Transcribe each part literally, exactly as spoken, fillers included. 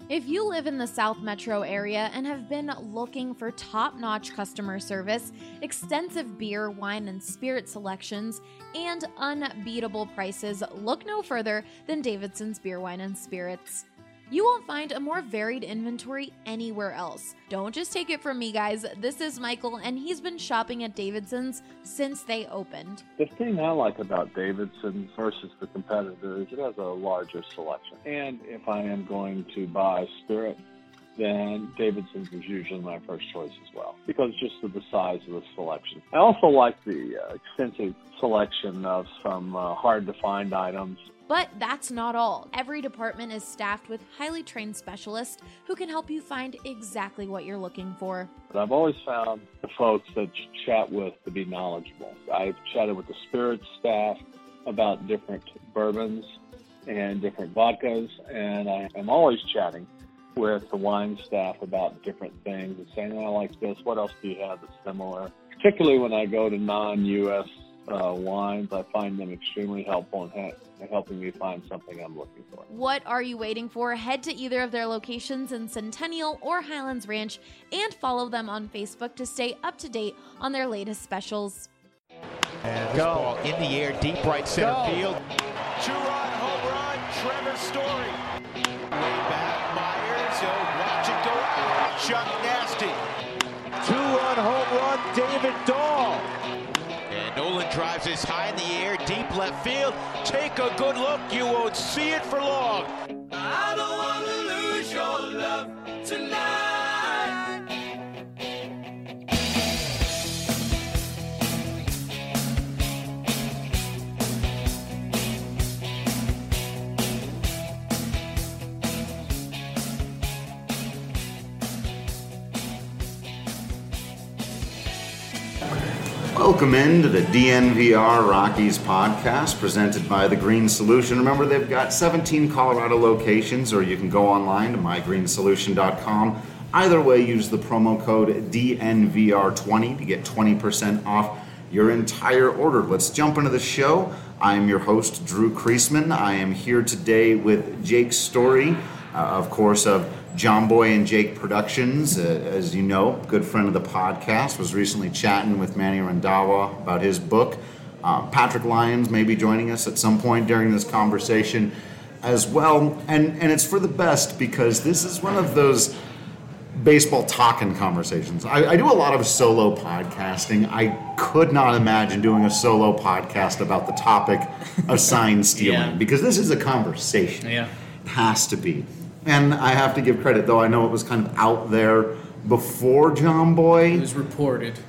If you live in the South Metro area and have been looking for top-notch customer service, extensive beer, wine, and spirit selections, and unbeatable prices, look no further than Davidson's Beer, Wine, and Spirits. You won't find a more varied inventory anywhere else. Don't just take it from me, guys. This is Michael, and he's been shopping at Davidson's since they opened. The thing I like about Davidson's versus the competitor is it has a larger selection. And if I am going to buy spirit, then Davidson's is usually my first choice as well, because just of the size of the selection. I also like the uh, extensive selection of some uh, hard-to-find items. But that's not all. Every department is staffed with highly trained specialists who can help you find exactly what you're looking for. But I've always found the folks that you chat with to be knowledgeable. I've chatted with the spirits staff about different bourbons and different vodkas, and I am always chatting with the wine staff about different things and saying, oh, I like this, what else do you have that's similar? Particularly when I go to non-U S uh, wines, I find them extremely helpful in ha- helping me find something I'm looking for. What are you waiting for? Head to either of their locations in Centennial or Highlands Ranch and follow them on Facebook to stay up to date on their latest specials. And this ball in the air, deep right center Go. field. Two-run home run, Trevor Story. Way back, Myers, he'll watch it go out. Chuck Nasty. Two-run home run, David Dahl. And Nolan drives this high in the air, deep left field. Take a good look, you won't see it for long. I don't want to lose your love tonight. Welcome into the D N V R Rockies podcast presented by The Green Solution. Remember, they've got seventeen Colorado locations, or you can go online to my green solution dot com. Either way, use the promo code D N V R twenty to get twenty percent off your entire order. Let's jump into the show. I am your host, Drew Kreisman. I am here today with Jake Story, uh, of course, of John Boy and Jake Productions, uh, as you know, good friend of the podcast, was recently chatting with Manny Randhawa about his book. Uh, Patrick Lyons may be joining us at some point during this conversation as well. And, and it's for the best because this is one of those baseball talking conversations. I, I do a lot of solo podcasting. I could not imagine doing a solo podcast about the topic of sign stealing Yeah. because this is a conversation. Yeah. It has to be. And I have to give credit, though I know it was kind of out there before John Boy. It was reported.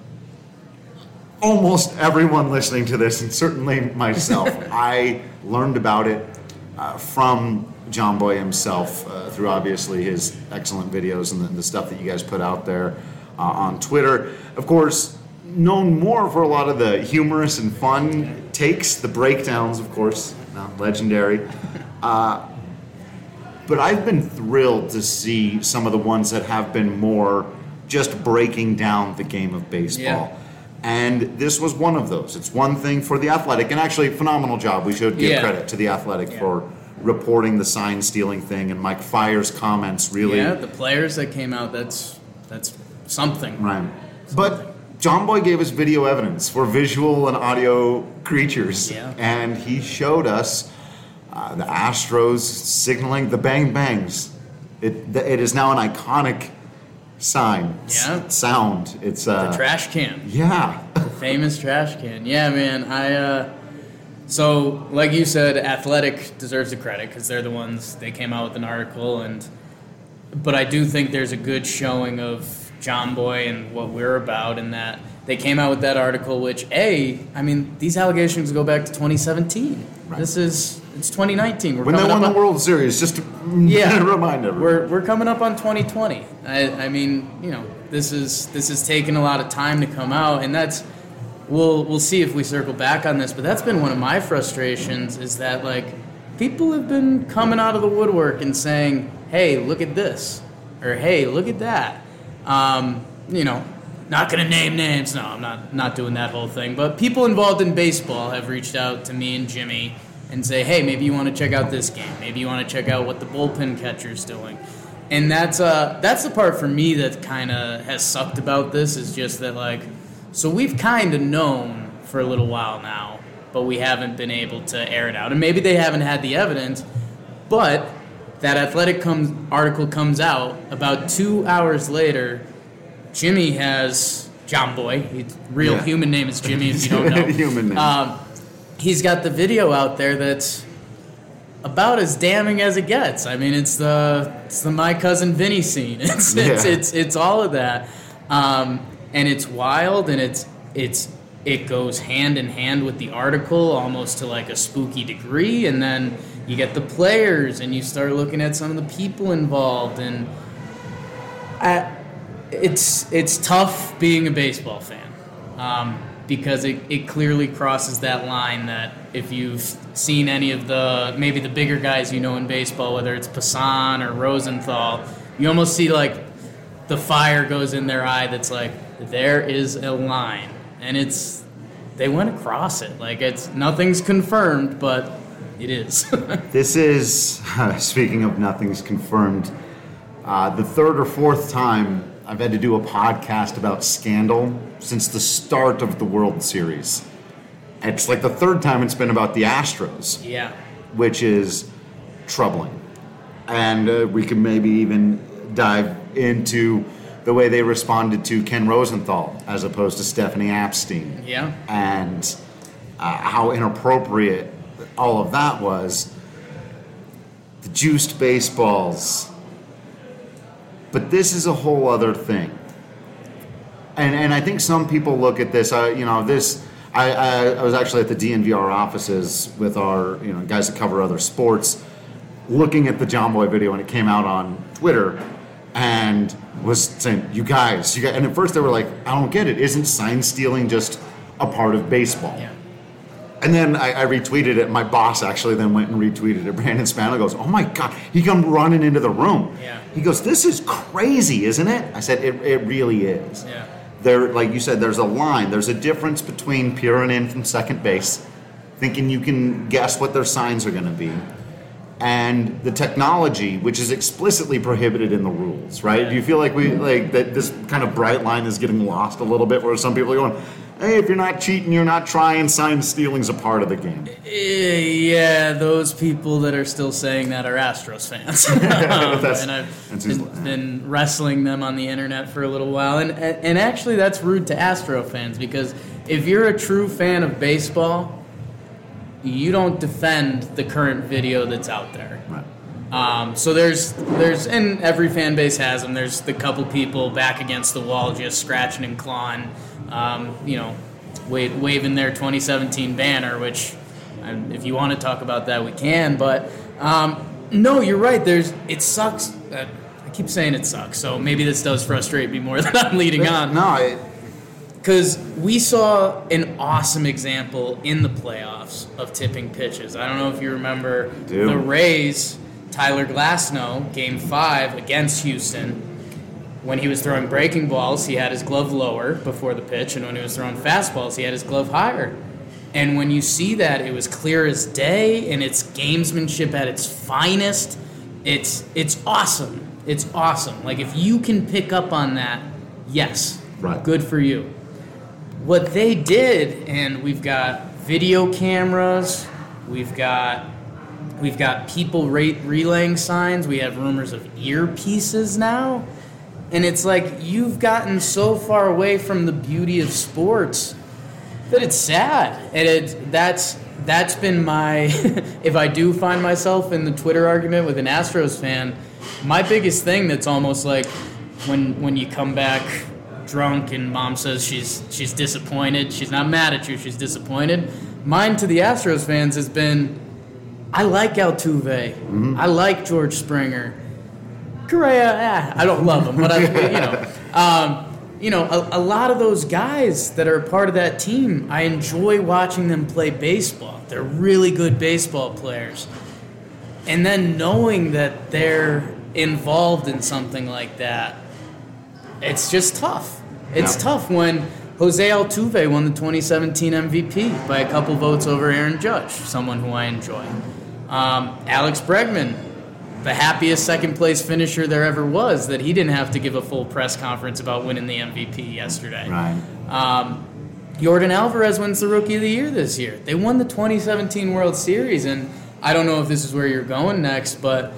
Almost everyone listening to this, and certainly myself, I learned about it uh, from John Boy himself uh, through obviously his excellent videos and the, the stuff that you guys put out there uh, on Twitter. Of course, known more for a lot of the humorous and fun takes, the breakdowns, of course, uh, legendary. Uh, But I've been thrilled to see some of the ones that have been more just breaking down the game of baseball. Yeah. And this was one of those. It's one thing for The Athletic, and actually phenomenal job. We should give Yeah. credit to The Athletic Yeah. for reporting the sign stealing thing, and Mike Fire's comments really. Yeah, the players that came out, that's that's something. Right. But John Boy gave us video evidence. We're visual and audio creatures. Yeah. And he showed us Uh, the Astros signaling the bang bangs. It it is now an iconic sign. Yeah. S- sound. It's uh, The trash can. Yeah. The famous trash can. Yeah, man. I uh, so like you said, Athletic deserves the credit because they're the ones. They came out with an article, and but I do think there's a good showing of John Boy and what we're about in that they came out with that article. Which a, I mean, these allegations go back to twenty seventeen. Right. This is it's twenty nineteen. We're When they coming won up the on, World Series, just to Yeah. remind everyone. We're we're coming up on twenty twenty. I I mean, you know, this is this is taking a lot of time to come out, and that's we'll we'll see if we circle back on this. But that's been one of my frustrations is that like people have been coming out of the woodwork and saying, "Hey, look at this," or "Hey, look at that." Um, you know, not gonna name names. No, I'm not not doing that whole thing. But people involved in baseball have reached out to me and Jimmy and say, hey, maybe you want to check out this game. Maybe you want to check out what the bullpen catcher's doing. And that's uh that's the part for me that kind of has sucked about this, is just that, like, so we've kind of known for a little while now, but we haven't been able to air it out. And maybe they haven't had the evidence, but that Athletic comes, article comes out about two hours later. Jimmy has, John Boy, his real yeah. human name is Jimmy if you don't know. Human name. Um, he's got the video out there that's about as damning as it gets. I mean, it's the it's the My Cousin Vinny scene. It's yeah. it's, it's it's all of that, um, and it's wild, and it's it's it goes hand in hand with the article almost to like a spooky degree, and then you get the players, and you start looking at some of the people involved, and I, it's it's tough being a baseball fan. Um, because it, it clearly crosses that line that if you've seen any of the, maybe the bigger guys you know in baseball, whether it's Passan or Rosenthal, you almost see like the fire goes in their eye that's like, there is a line. And it's, they went across it. Like, it's, nothing's confirmed, but it is. This is, uh, speaking of nothing's confirmed, uh, the third or fourth time I've had to do a podcast about scandal since the start of the World Series. It's like the third time it's been about the Astros. Yeah. Which is troubling. And uh, we can maybe even dive into the way they responded to Ken Rosenthal as opposed to Stephanie Epstein. Yeah. And uh, how inappropriate all of that was. The juiced baseballs. But this is a whole other thing. And and I think some people look at this, uh, you know, this, I, I, I was actually at the D N V R offices with our, you know, guys that cover other sports, looking at the John Boy video when it came out on Twitter, and was saying, you guys, you guys, and at first they were like, I don't get it. Isn't sign stealing just a part of baseball? Yeah. And then I, I retweeted it. My boss actually then went and retweeted it. Brandon Spano goes, oh my God. He come running into the room. Yeah. He goes, this is crazy, isn't it? I said, it, it really is. Yeah. There, like you said, there's a line. There's a difference between peering in from second base, thinking you can guess what their signs are going to be, and the technology, which is explicitly prohibited in the rules, right? Yeah. Do you feel like we like that this kind of bright line is getting lost a little bit, where some people are going, hey, if you're not cheating, you're not trying, sign stealing's a part of the game. Yeah, those people that are still saying that are Astros fans. um, and I've been, been wrestling them on the internet for a little while. And, and actually, that's rude to Astro fans, because if you're a true fan of baseball, you don't defend the current video that's out there. Right. Um, so there's, there's, and every fan base has them, there's the couple people back against the wall just scratching and clawing, um, you know, wa- waving their twenty seventeen banner, which, um, if you want to talk about that, we can. But um, no, you're right. There's, it sucks. Uh, I keep saying it sucks, so maybe this does frustrate me more than I'm leading on. No, it... Because we saw an awesome example in the playoffs of tipping pitches. I don't know if you remember Dude. the Rays, Tyler Glasnow, game five against Houston. When he was throwing breaking balls, he had his glove lower before the pitch, and when he was throwing fastballs, he had his glove higher. And when you see that, it was clear as day, and it's gamesmanship at its finest. It's it's awesome. It's awesome. Like, if you can pick up on that, yes, right. Good for you. What they did, and we've got video cameras, we've got we've got people re- relaying signs, we have rumors of earpieces now, and it's like you've gotten so far away from the beauty of sports that it's sad. And it that's that's been my if I do find myself in the Twitter argument with an Astros fan, my biggest thing that's almost like when when you come back drunk and mom says she's she's disappointed, she's not mad at you, she's disappointed. Mine to the Astros fans has been, I like Altuve, mm-hmm. I like George Springer, Correa. Eh, I don't love him, but I, you know, um, you know, a, a lot of those guys that are part of that team, I enjoy watching them play baseball. They're really good baseball players, and then knowing that they're involved in something like that, it's just tough. It's yeah. tough when Jose Altuve won the twenty seventeen M V P by a couple votes over Aaron Judge, someone who I enjoy. Um, Alex Bregman the happiest second place finisher there ever was that he didn't have to give a full press conference about winning the M V P yesterday. Right. Um, Yordan Alvarez wins the Rookie of the Year this year. They won the twenty seventeen World Series, and I don't know if this is where you're going next, but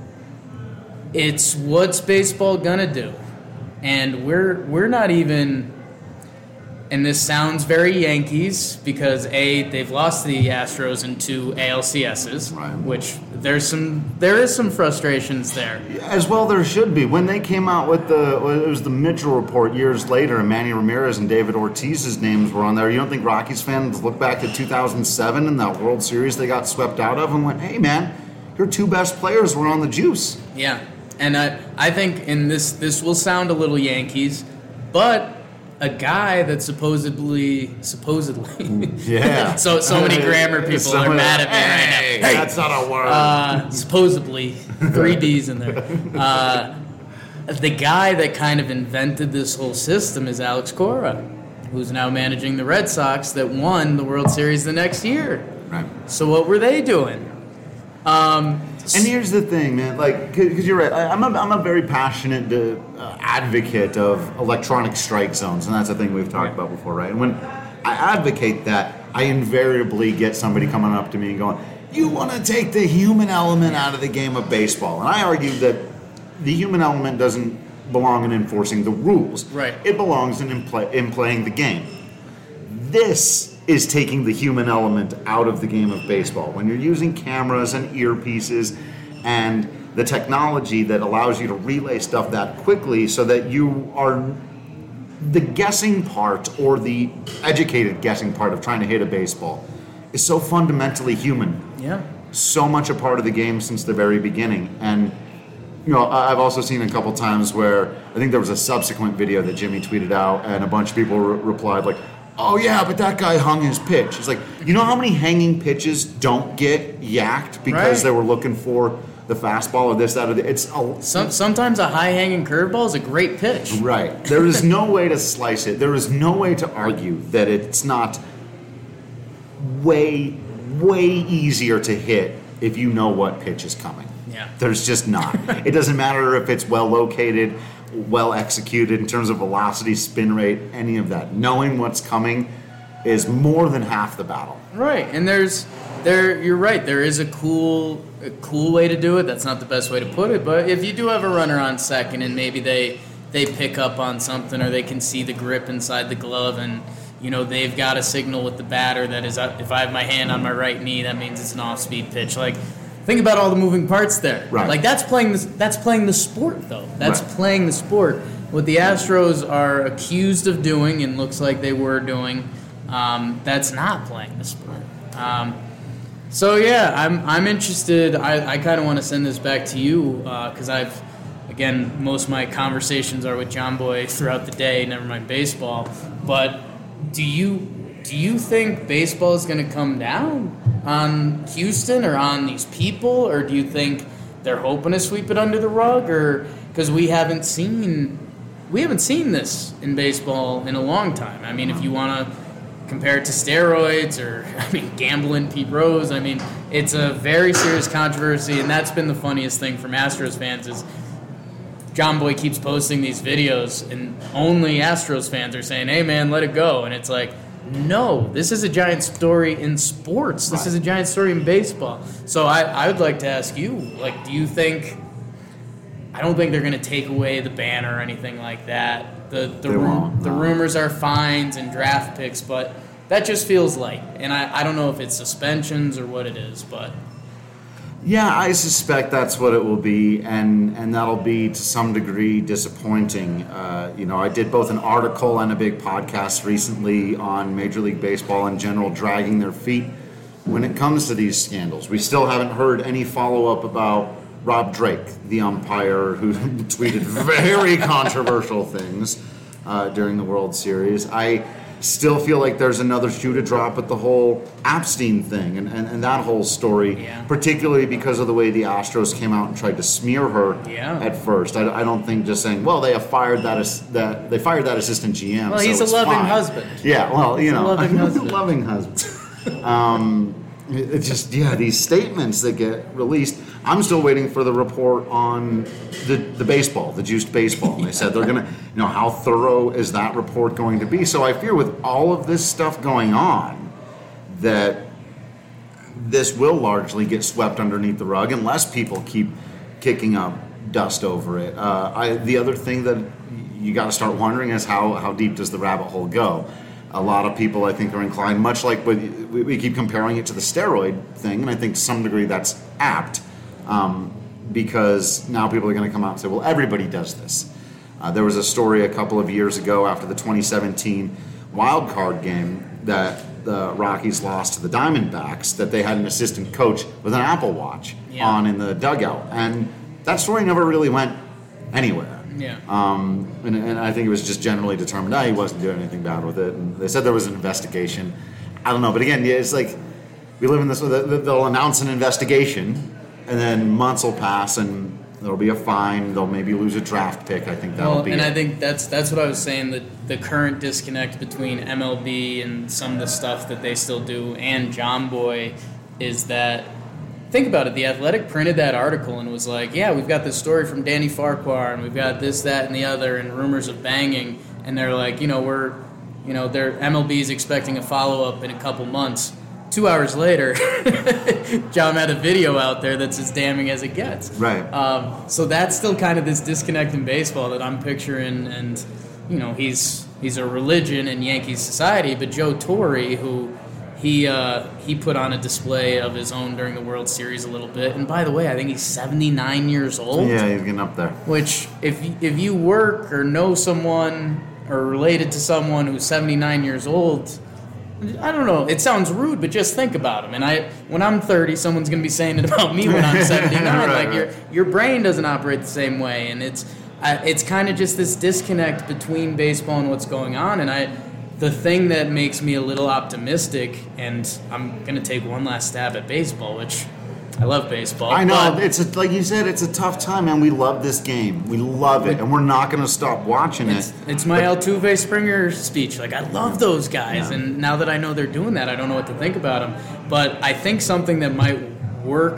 it's what's baseball gonna do? And we're we're not even, and this sounds very Yankees because A, they've lost the Astros in two A L C S's, right. which there's some there is some frustrations there. As well there should be. When they came out with the, it was the Mitchell report years later, and Manny Ramirez and David Ortiz's names were on there. You don't think Rockies fans look back at two thousand seven and that World Series they got swept out of and went, hey man, your two best players were on the juice. Yeah, and I, I think, and this, this will sound a little Yankees, but a guy that supposedly, supposedly, yeah. so so many grammar people Some are mad at me hey, right now. Hey, that's not a word. Uh, supposedly, three D's in there. Uh, the guy that kind of invented this whole system is Alex Cora, who's now managing the Red Sox that won the World Series the next year. Right. So what were they doing? Um, And here's the thing, man. Like, because you're right. I, I'm a, I'm a very passionate uh, advocate of electronic strike zones, and that's a thing we've talked about before, right? And when I advocate that, I invariably get somebody coming up to me and going, "You want to take the human element out of the game of baseball?" And I argue that the human element doesn't belong in enforcing the rules. Right. It belongs in in, play, in playing the game. This is taking the human element out of the game of baseball. When you're using cameras and earpieces and the technology that allows you to relay stuff that quickly so that you are the guessing part or the educated guessing part of trying to hit a baseball is so fundamentally human. Yeah. So much a part of the game since the very beginning. And you know, I've also seen a couple times where I think there was a subsequent video that Jimmy tweeted out and a bunch of people re- replied like, oh yeah, but that guy hung his pitch. It's like, you know how many hanging pitches don't get yacked because Right. they were looking for the fastball or this, that, or the, it's a, Some, sometimes a high-hanging curveball is a great pitch. right. There is no way to slice it. There is no way to argue that it's not way, way easier to hit if you know what pitch is coming. Yeah. There's just not. It doesn't matter if it's well located, well executed in terms of velocity, spin rate, any of that. Knowing what's coming is more than half the battle. Right, and there's there. You're right. There is a cool, a cool way to do it. That's not the best way to put it, but if you do have a runner on second and maybe they they pick up on something or they can see the grip inside the glove and you know they've got a signal with the batter that is, if I have my hand on my right knee, that means it's an off-speed pitch. Like, think about all the moving parts there. Right. Like that's playing the that's playing the sport though. That's Right. playing the sport. What the Astros are accused of doing and looks like they were doing, um, that's not playing the sport. Um, so yeah, I'm I'm interested. I, I kind of want to send this back to you because uh, I've again most of my conversations are with John Boy throughout the day. Never mind baseball. But do you do you think baseball is going to come down on Houston or on these people, or do you think they're hoping to sweep it under the rug, or because we haven't seen we haven't seen this in baseball in a long time? I mean, if you want to compare it to steroids or I mean gambling, Pete Rose, I mean it's a very serious controversy, and that's been the funniest thing from Astros fans is John Boy keeps posting these videos, and only Astros fans are saying, "Hey man, let it go," and it's like, no, this is a giant story in sports. This is a giant story in baseball. So I, I would like to ask you, like, do you think, I don't think they're going to take away the ban or anything like that. The the, They ru- won't, the no. rumors are fines and draft picks, but that just feels light. And I, I don't know if it's suspensions or what it is, but... Yeah, I suspect that's what it will be, and, and that'll be to some degree disappointing. Uh, you know, I did both an article and a big podcast recently on Major League Baseball in general dragging their feet when it comes to these scandals. We still haven't heard any follow-up about Rob Drake, the umpire who tweeted very controversial things uh, during the World Series. I still feel like there's another shoe to drop with the whole Epstein thing and, and, and that whole story, Yeah. particularly because of the way the Astros came out and tried to smear her Yeah. at first. I, I don't think just saying, well, they have fired that as, that they fired that assistant G M. Well, so he's a it's loving fine. husband. Yeah, well, you He's a know, loving husband. loving husband. um, It's just, yeah, these statements that get released. I'm still waiting for the report on the, the baseball, the juiced baseball. And they said they're going to, you know, how thorough is that report going to be? So I fear with all of this stuff going on that this will largely get swept underneath the rug unless people keep kicking up dust over it. Uh, I, the other thing that you got to start wondering is how, how deep does the rabbit hole go? A lot of people, I think, are inclined, much like we, we keep comparing it to the steroid thing, and I think to some degree that's apt, um, because now people are going to come out and say, well, everybody does this. Uh, there was a story a couple of years ago after the twenty seventeen wild card game that the Rockies lost to the Diamondbacks, that they had an assistant coach with an Apple Watch yeah. on in the dugout, and that story never really went anywhere. Yeah. Um, and, and I think it was just generally determined, ah, he wasn't doing anything bad with it. And they said there was an investigation. I don't know. But again, yeah, it's like we live in this, they'll announce an investigation and then months will pass and there'll be a fine. They'll maybe lose a draft pick. I think that'll well, be and it. I think that's that's what I was saying, that the current disconnect between M L B and some of the stuff that they still do and John Boy is that, think about it, The Athletic printed that article and was like, yeah, we've got this story from Danny Farquhar and we've got this, that, and the other, and rumors of banging, and they're like, you know, we're, you know, their M L B's expecting a follow-up in a couple months. Two hours later, John had a video out there that's as damning as it gets. Right. Um, so that's still kind of this disconnect in baseball that I'm picturing, and, you know, he's he's a religion in Yankees society, but Joe Torre, who... He uh, he put on a display of his own during the World Series a little bit. And by the way, I think he's seventy-nine years old. Yeah, he's getting up there. Which, if if you work or know someone or related to someone who's seventy-nine years old, I don't know. It sounds rude, but just think about him. And I, when I'm thirty, someone's going to be saying it about me when I'm seventy-nine. right, like right. your your brain doesn't operate the same way, and it's uh, it's kind of just this disconnect between baseball and what's going on. And I. The thing that makes me a little optimistic, and I'm going to take one last stab at baseball, which I love baseball. I know. It's a, like you said, it's a tough time, man. We love this game. We love it, and we're not going to stop watching it's, it. It's my but, Altuve Springer speech. Like, I love those guys, yeah. and now that I know they're doing that, I don't know what to think about them. But I think something that might work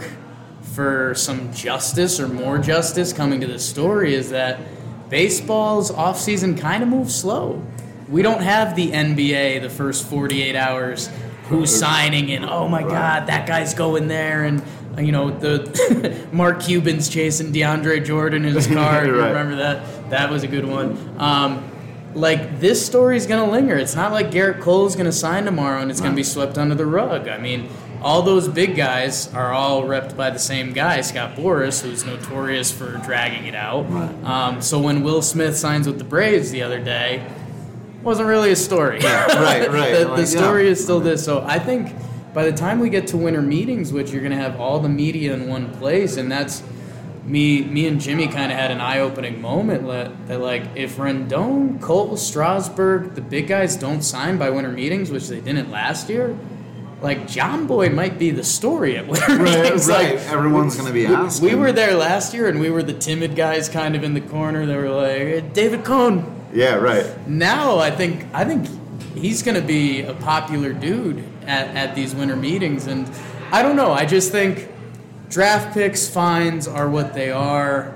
for some justice or more justice coming to this story is that baseball's offseason kind of moves slow. We don't have the N B A the first forty-eight hours, who's signing and, oh my God, that guy's going there, and you know the Mark Cuban's chasing DeAndre Jordan in his car. right. You remember that? That was a good one. Um, like, this story's gonna linger. It's not like Garrett Cole's gonna sign tomorrow and it's gonna be swept under the rug. I mean, all those big guys are all repped by the same guy, Scott Boras, who's notorious for dragging it out. Right. Um, so when Will Smith signs with the Braves the other day, wasn't really a story. Yeah, right, right. the, like, the story yeah. is still this. So I think by the time we get to winter meetings, which you're going to have all the media in one place, and that's me me and Jimmy kind of had an eye-opening moment that, that, like, if Rendon, Cole, Strasburg, the big guys don't sign by winter meetings, which they didn't last year, like, John Boy might be the story at winter right, meetings. Right, like, everyone's going to be asking. We were there last year, and we were the timid guys kind of in the corner. They were like, hey, David Cohn. Yeah, right. Now I think I think he's going to be a popular dude at, at these winter meetings, and I don't know. I just think draft picks, fines are what they are.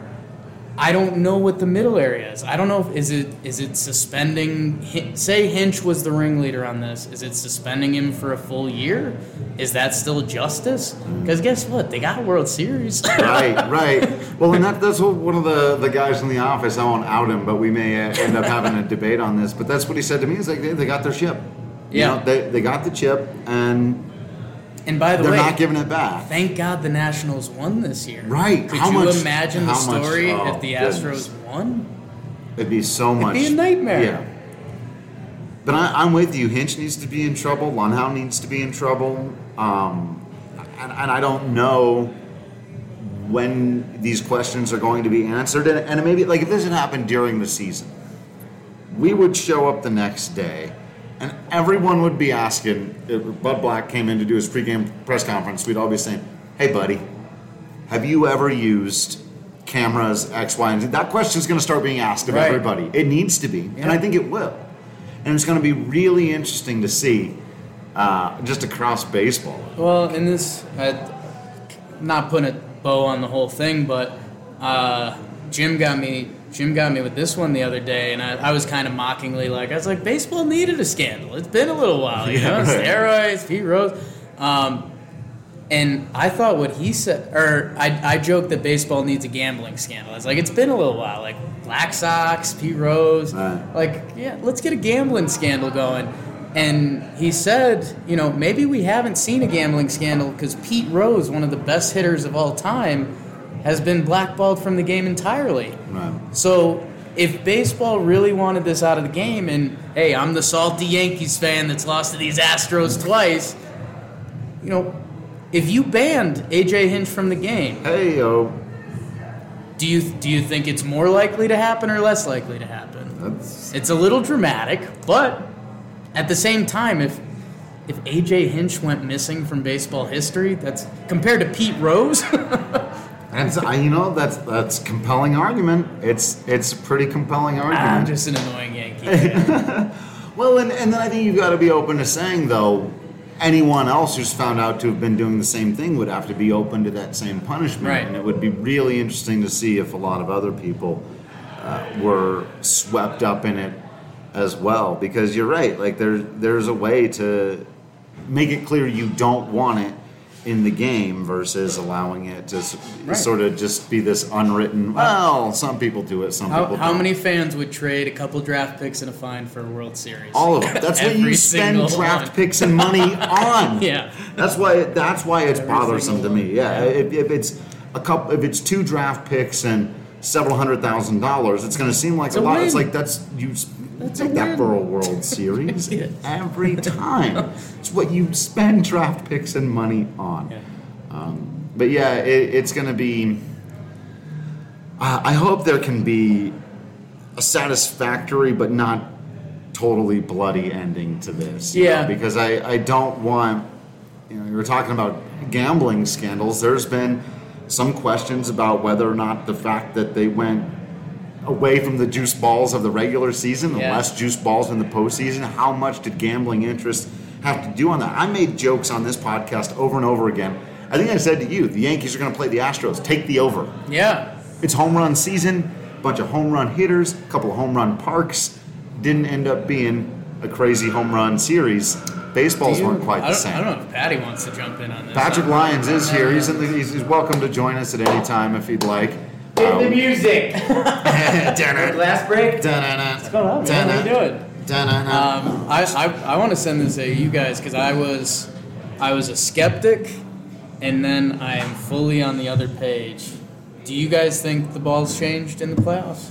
I don't know what the middle area is. I don't know if is it is it suspending. Say Hinch was the ringleader on this. Is it suspending him for a full year? Is that still justice? Because guess what? They got a World Series. right, right. Well, and that, that's what one of the, the guys in the office, I won't out him, but we may end up having a debate on this. But that's what he said to me. He's like, they, they got their chip. You Yeah. know, they, they got the chip, and And by the they're way, not giving it back. Thank God the Nationals won this year. Right. Could How you much- imagine the how much- story oh, if the goodness. Astros won? It'd be so much. It'd be a nightmare. Yeah. But I, I'm with you. Hinch needs to be in trouble. Lunhow needs to be in trouble. Um, and, and I don't know when these questions are going to be answered. And, and maybe, like, if this had happened during the season, we would show up the next day, and everyone would be asking, if Bud Black came in to do his pregame press conference, we'd all be saying, hey, buddy, have you ever used cameras X, Y, and Z? That question's going to start being asked of Right. everybody. It needs to be, Yeah. and I think it will. And it's going to be really interesting to see uh, just across baseball. Well, in this, uh, not putting a bow on the whole thing, but uh, Jim got me. Jim got me with this one the other day, and I, I was kind of mockingly like, I was like, baseball needed a scandal. It's been a little while, you know, steroids, Pete Rose. Um, and I thought what he said, or I, I joked that baseball needs a gambling scandal. I was like, it's been a little while, like Black Sox, Pete Rose, right. like, yeah, let's get a gambling scandal going. And he said, you know, maybe we haven't seen a gambling scandal because Pete Rose, one of the best hitters of all time, has been blackballed from the game entirely. Right. So if baseball really wanted this out of the game, and hey, I'm the salty Yankees fan that's lost to these Astros twice, you know, if you banned A J Hinch from the game, hey yo, do you do you think it's more likely to happen or less likely to happen? That's... It's a little dramatic, but at the same time, if if A J Hinch went missing from baseball history, that's compared to Pete Rose. That's, you know, that's that's compelling argument. It's it's a pretty compelling argument. I'm just an annoying Yankee fan. Well, and, and then I think you've got to be open to saying, though, anyone else who's found out to have been doing the same thing would have to be open to that same punishment. Right. And it would be really interesting to see if a lot of other people uh, were swept up in it as well. Because you're right, like there, there's a way to make it clear you don't want it in the game versus allowing it to right. sort of just be this unwritten, well, some people do it, some how, people don't. How many fans would trade a couple draft picks and a fine for a World Series? All of it. That's what you spend draft one. picks and money on. Yeah. That's why that's why it's Every bothersome to me. Yeah. yeah. If, if it's a couple if it's two draft picks and several hundred thousand dollars, it's gonna seem like it's a, a lot. Win. It's like that's you That's take that for a World Series every time. It's what you spend draft picks and money on. Yeah. Um, but yeah, it, it's going to be. Uh, I hope there can be a satisfactory but not totally bloody ending to this. Yeah. Know, because I, I don't want. You know, you were talking about gambling scandals. There's been some questions about whether or not the fact that they went away from the juice balls of the regular season, the yeah. less juice balls in the postseason, how much did gambling interests have to do on that? I made jokes on this podcast over and over again. I think I said to you, the Yankees are going to play the Astros. Take the over. Yeah. It's home run season, a bunch of home run hitters, a couple of home run parks. Didn't end up being a crazy home run series. Baseballs you, weren't quite the same. I don't know if Patty wants to jump in on this. Patrick Lyons is here. He's, in the, he's, he's welcome to join us at any time if he'd like. Hit um, the music. Last break. What's going on, man? How you doing? Um, I, I, I want to send this to you guys because I was I was a skeptic, and then I am fully on the other page. Do you guys think the ball's changed in the playoffs?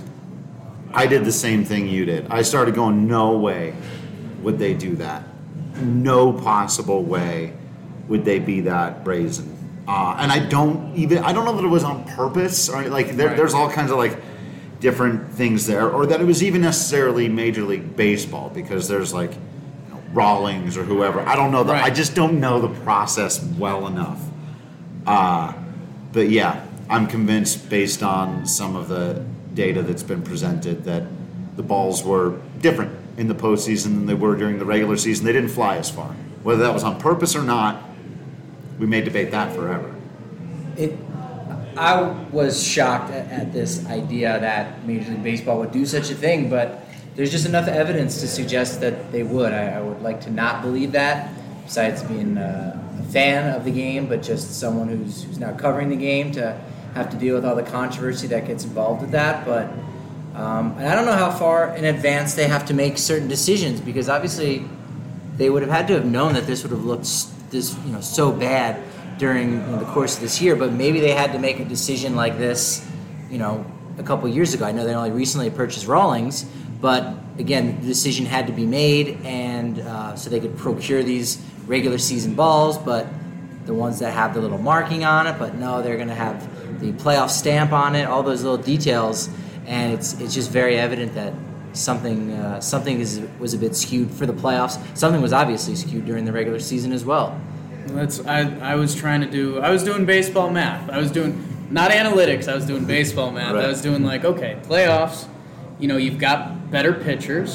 I did the same thing you did. I started going, no way would they do that. No possible way would they be that brazen. Uh, and I don't even, I don't know that it was on purpose, or like there, right. there's all kinds of like different things there, or that it was even necessarily Major League Baseball, because there's like, you know, Rawlings or whoever. I don't know that. Right. I just don't know the process well enough. Uh, but yeah, I'm convinced based on some of the data that's been presented that the balls were different in the postseason than they were during the regular season. They didn't fly as far. Whether that was on purpose or not, we may debate that forever. It, I was shocked at, at this idea that Major League Baseball would do such a thing, but there's just enough evidence to suggest that they would. I, I would like to not believe that, besides being a, a fan of the game, but just someone who's, who's now covering the game to have to deal with all the controversy that gets involved with that. But um, and I don't know how far in advance they have to make certain decisions, because obviously they would have had to have known that this would have looked this, you know, so bad during you know, the course of this year. But maybe they had to make a decision like this, you know, a couple years ago. I know they only recently purchased Rawlings, but again, the decision had to be made, and uh, so they could procure these regular season balls, but the ones that have the little marking on it. But no, they're going to have the playoff stamp on it, all those little details, and it's it's just very evident that something uh, something is was a bit skewed for the playoffs. Something was obviously skewed during the regular season as well. That's I I was trying to do I was doing baseball math. I was doing not analytics. I was doing baseball math. Right. I was doing like, okay, playoffs. You know, you've got better pitchers.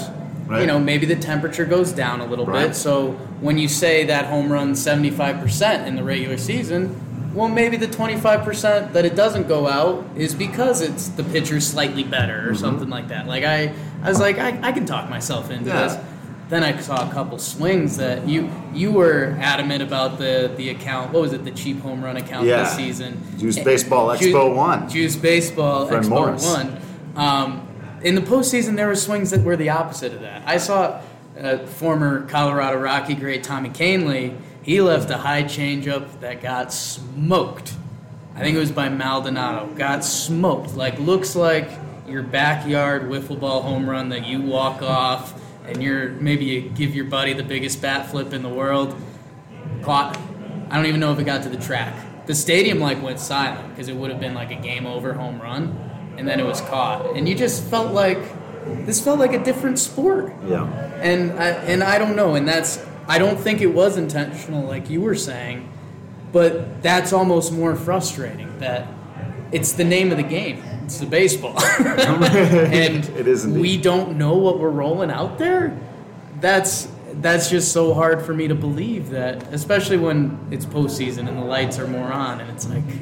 Right. You know, maybe the temperature goes down a little Right. bit. So when you say that home run seventy-five percent in the regular season, well, maybe the twenty-five percent that it doesn't go out is because it's the pitcher's slightly better or mm-hmm. something like that. Like I, I was like, I, I can talk myself into yeah. this. Then I saw a couple swings that you you were adamant about the, the account. What was it? The cheap home run account yeah. this season. Juice Baseball Expo One. Juice Baseball Friend Expo Morris. One. Um, in the postseason, there were swings that were the opposite of that. I saw uh, former Colorado Rocky great Tommy Kahnle. He left a high changeup that got smoked. I think it was by Maldonado. Got smoked. Like, looks like your backyard wiffle ball home run that you walk off and you're maybe you give your buddy the biggest bat flip in the world. Caught. I don't even know if it got to the track. The stadium like went silent because it would have been like a game over home run, and then it was caught. And you just felt like this felt like a different sport. Yeah. And I, and I don't know, and that's I don't think it was intentional like you were saying, but that's almost more frustrating that it's the name of the game. It's the baseball. And it is indeed. We don't know what we're rolling out there. That's that's just so hard for me to believe that, especially when it's postseason and the lights are more on, and it's like,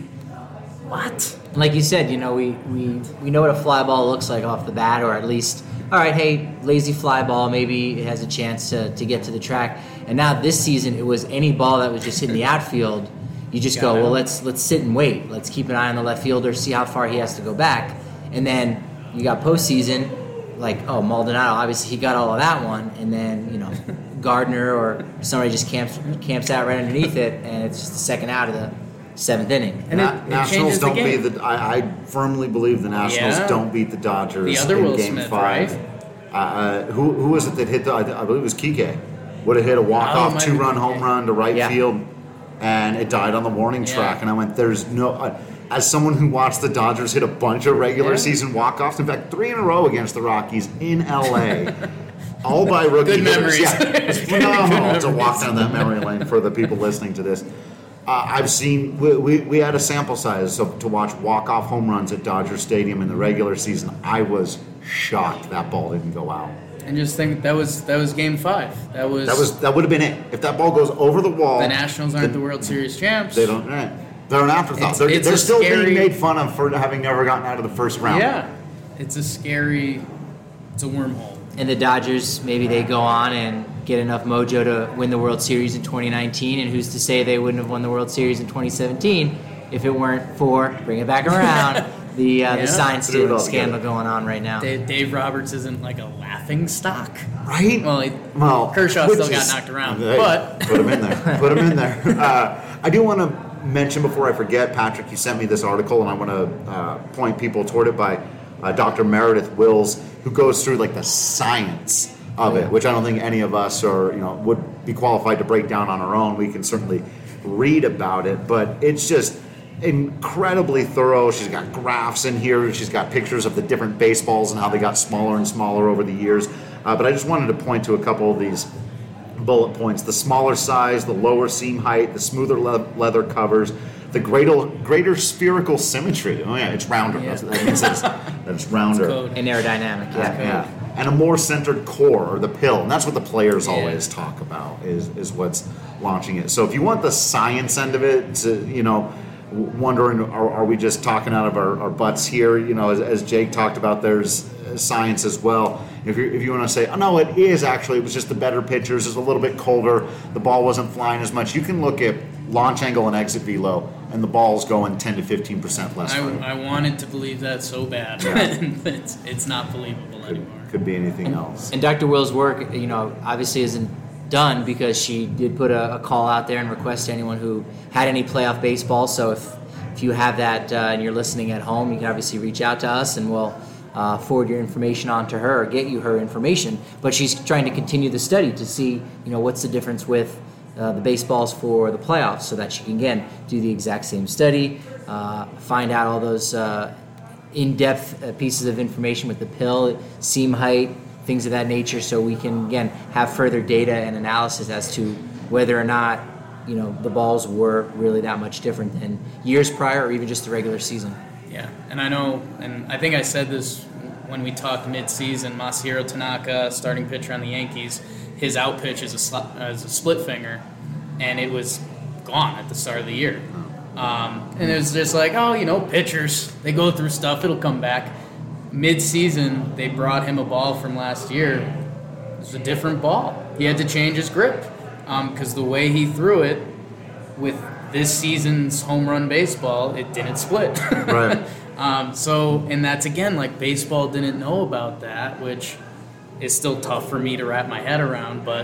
what? Like you said, you know, we, we, we know what a fly ball looks like off the bat, or at least, all right, hey, lazy fly ball, maybe it has a chance to, to get to the track. And now this season, it was any ball that was just hitting the outfield. You just go, well, let's let's sit and wait. Let's keep an eye on the left fielder, see how far he has to go back. And then you got postseason, like, oh, Maldonado, obviously he got all of that one. And then, you know, Gardner or somebody just camps camps out right underneath it, and it's just the second out of the seventh inning. And Na- it, it Nationals don't the beat the. I, I firmly believe the Nationals yeah. don't beat the Dodgers the other in Will Game Smith, Five. Right? Uh, who who was it that hit the? I, I believe it was Kike. Would have hit a walk Oh, off it might two have run been home Kike. run to right Yeah. field, and it died on the warning Yeah. track. And I went, "There's no." Uh, as someone who watched the Dodgers hit a bunch of regular Yeah. season walk offs, in fact, three in a row against the Rockies in L A. All by rookie Good hitters. memories. Yeah, it's phenomenal to walk down that memory lane for the people listening to this. Uh, I've seen, we, we, we had a sample size so, to watch walk-off home runs at Dodger Stadium in the regular season. I was shocked that ball didn't go out. And just think that was that was Game Five. That was That was that would have been it. If that ball goes over the wall, the Nationals aren't the, the World Series champs. They don't. Right. They're an afterthought. It's- they're it's they're a still scary- being made fun of for having never gotten out of the first round. Yeah, it's a scary. It's a wormhole. And the Dodgers, maybe they go on and get enough mojo to win the World Series in twenty nineteen, and who's to say they wouldn't have won the World Series in twenty seventeen if it weren't for, bring it back around, the uh, Yeah. the sign Put it all stealing scandal together. going on right now. Dave, Dave Roberts isn't like a laughing stock, Right? Well, he, Well, Kershaw which still got is- knocked around, Hey, but put him in there. Put him in there. Uh, I do want to mention before I forget, Patrick, you sent me this article, and I want to uh, point people toward it by uh, Doctor Meredith Wills, who goes through like the science of it, which I don't think any of us are, you know, would be qualified to break down on our own. We can certainly read about it, but it's just incredibly thorough. She's got graphs in here. She's got pictures of the different baseballs and how they got smaller and smaller over the years. Uh, but I just wanted to point to a couple of these bullet points: the smaller size, the lower seam height, the smoother le- leather covers, the greater, greater spherical symmetry. Oh yeah, it's rounder. Yeah. That's, that means it's, that it's rounder. code. And aerodynamic, yeah. Yeah, and a more centered core, or the pill, and that's what the players Yeah. always talk about. Is is what's launching it. So if you want the science end of it, to, you know, w- wondering are, are we just talking out of our, our butts here? You know, as, as Jake talked about, there's uh, science as well. If you if you want to say, oh no, it is actually, it was just the better pitchers. It's a little bit colder. The ball wasn't flying as much. You can look at launch angle and exit velo, and the ball's going ten to fifteen percent less. I, further. I wanted to believe that so bad. Yeah. it's, it's not believable anymore. Could be anything else. And Doctor Will's work, you know, obviously isn't done because she did put a, a call out there and request to anyone who had any playoff baseball. So if if you have that uh, and you're listening at home, you can obviously reach out to us and we'll uh, forward your information on to her or get you her information. But she's trying to continue the study to see, you know, what's the difference with uh, the baseballs for the playoffs, so that she can again do the exact same study, uh, find out all those uh, in-depth uh, pieces of information with the pill, seam height, things of that nature, so we can again have further data and analysis as to whether or not, you know, the balls were really that much different than years prior or even just the regular season. Yeah, and I know, and I think I said this when we talked mid-season, Masahiro Tanaka, starting pitcher on the Yankees, his out pitch is a, sl- is a split finger, and it was gone at the start of the year. Um, and it was just like, oh, you know, pitchers, they go through stuff, it'll come back. Mid-season, they brought him a ball from last year. It was a different ball. He had to change his grip because um, the way he threw it with this season's home run baseball, it didn't split. Right. um, so, and that's, again, like baseball didn't know about that, which is still tough for me to wrap my head around, but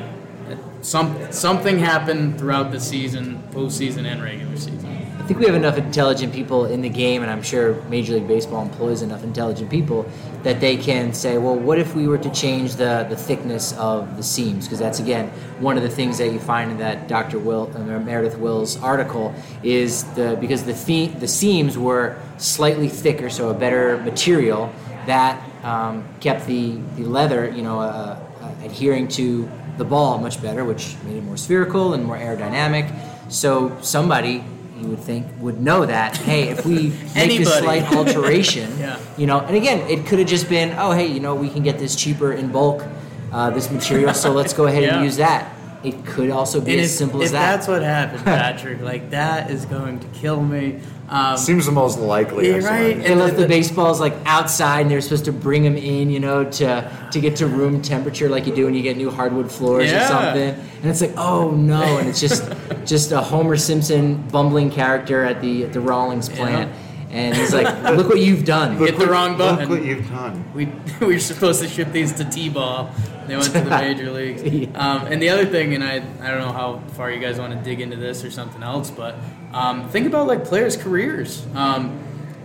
some something happened throughout the season, postseason and regular season. I think we have enough intelligent people in the game, and I'm sure Major League Baseball employs enough intelligent people that they can say, well, what if we were to change the, the thickness of the seams? Because that's, again, one of the things that you find in that Doctor Will, uh, Meredith Will's article is the because the fee, the seams were slightly thicker, so a better material that um, kept the, the leather, you know, uh, uh, adhering to the ball much better, which made it more spherical and more aerodynamic. So somebody, you would think, would know that, hey, if we make this slight alteration, yeah. you know, and again, it could have just been, oh, hey, you know, we can get this cheaper in bulk, uh, this material, so let's go ahead yeah. and use that. It could also be and as if, simple if as that. If that's what happened, Patrick, like, that is going to kill me. Um, Seems the most likely. Yeah, right. They left the baseballs like outside, and they're supposed to bring them in, you know, to to get to room temperature, like you do when you get new hardwood floors yeah. or something. And it's like, oh no! And it's just just a Homer Simpson bumbling character at the at the Rawlings plant, yeah. and he's like, look what you've done. Hit the wrong button. Look what you've done. We we were supposed to ship these to T-ball. They went to the major leagues. Um, and the other thing, and I I don't know how far you guys want to dig into this or something else, but um, think about like players' careers. Um,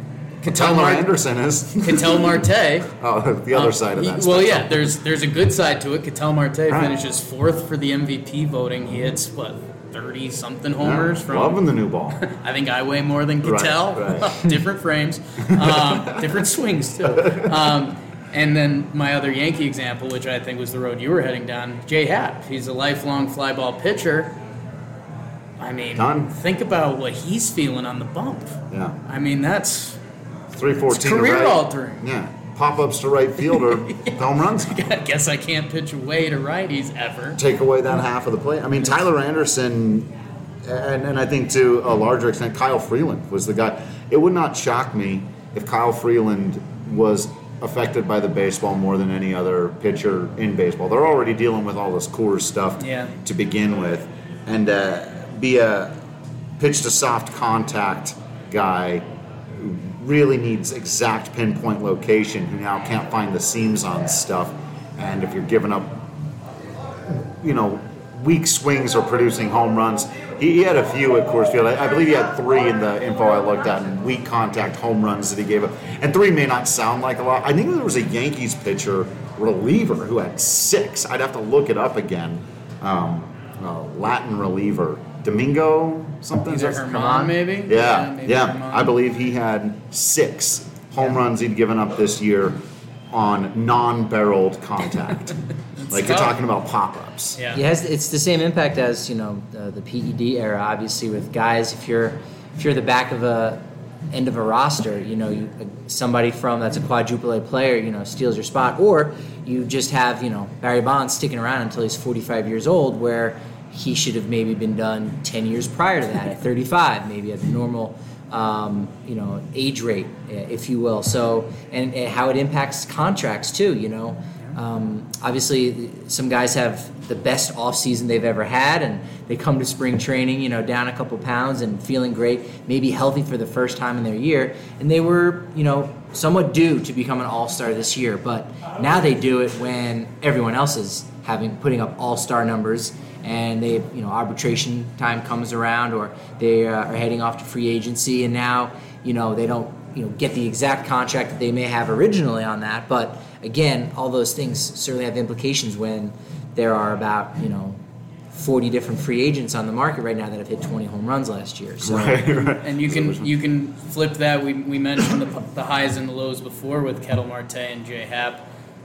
Ketel Mar- Anderson is. Ketel Marte. Oh, the other um, side of that. He, well, spectrum. yeah, there's there's a good side to it. Ketel Marte right. finishes fourth for the M V P voting. He hits, what, thirty-something homers yeah, from... Loving the new ball. I think I weigh more than Ketel. Right, right. Different frames. Um, different swings, too. Um, and then my other Yankee example, which I think was the road you were heading down, Jay Happ. He's a lifelong fly ball pitcher. I mean, Done. think about what he's feeling on the bump. Yeah. I mean, that's... three fourteen career right. altering. Yeah. Pop-ups to right field or yeah. home runs. I guess I can't pitch away to righties ever. Take away that half of the play. I mean, Tyler Anderson, and, and I think to a larger extent, Kyle Freeland was the guy. It would not shock me if Kyle Freeland was affected by the baseball more than any other pitcher in baseball. They're already dealing with all this Coors stuff yeah. to begin with. And uh, be a pitch to soft contact guy who really needs exact pinpoint location, who now can't find the seams on stuff. And if you're giving up, you know, weak swings or producing home runs, he, he had a few at Coors Field. I, I believe he had three in the info I looked at, and weak contact home runs that he gave up. And three may not sound like a lot. I think there was a Yankees pitcher, reliever, who had six. I'd have to look it up again. Um, uh, Latin reliever. Domingo something? Is it Herman, maybe? Yeah, yeah. Maybe yeah. Herman. I believe he had six home yeah. runs he'd given up this year on non-barreled contact. Like you're talking about pop-ups. Yeah. It has, it's the same impact as, you know, uh, the P E D era, obviously, with guys. If you're if you're the back of a end of a roster, you know, you, somebody from that's a quadruple A player, you know, steals your spot, or you just have, you know, Barry Bonds sticking around until he's forty-five years old, where he should have maybe been done ten years prior to that, at thirty-five, maybe at the normal, um, you know, age rate, if you will. So, and, and how it impacts contracts too, you know. Um, obviously, some guys have the best off season they've ever had, and they come to spring training, you know, down a couple pounds and feeling great, maybe healthy for the first time in their year, and they were, you know, somewhat due to become an all-star this year. But now they do it when everyone else is having putting up all-star numbers, and they, you know, arbitration time comes around, or they uh, are heading off to free agency, and now, you know, they don't, you know, get the exact contract that they may have originally on that. But again, all those things certainly have implications when there are about, you know, forty different free agents on the market right now that have hit twenty home runs last year. So, right, right. And you can you can flip that. We we mentioned the, the highs and the lows before with Ketel Marte and Jay Happ.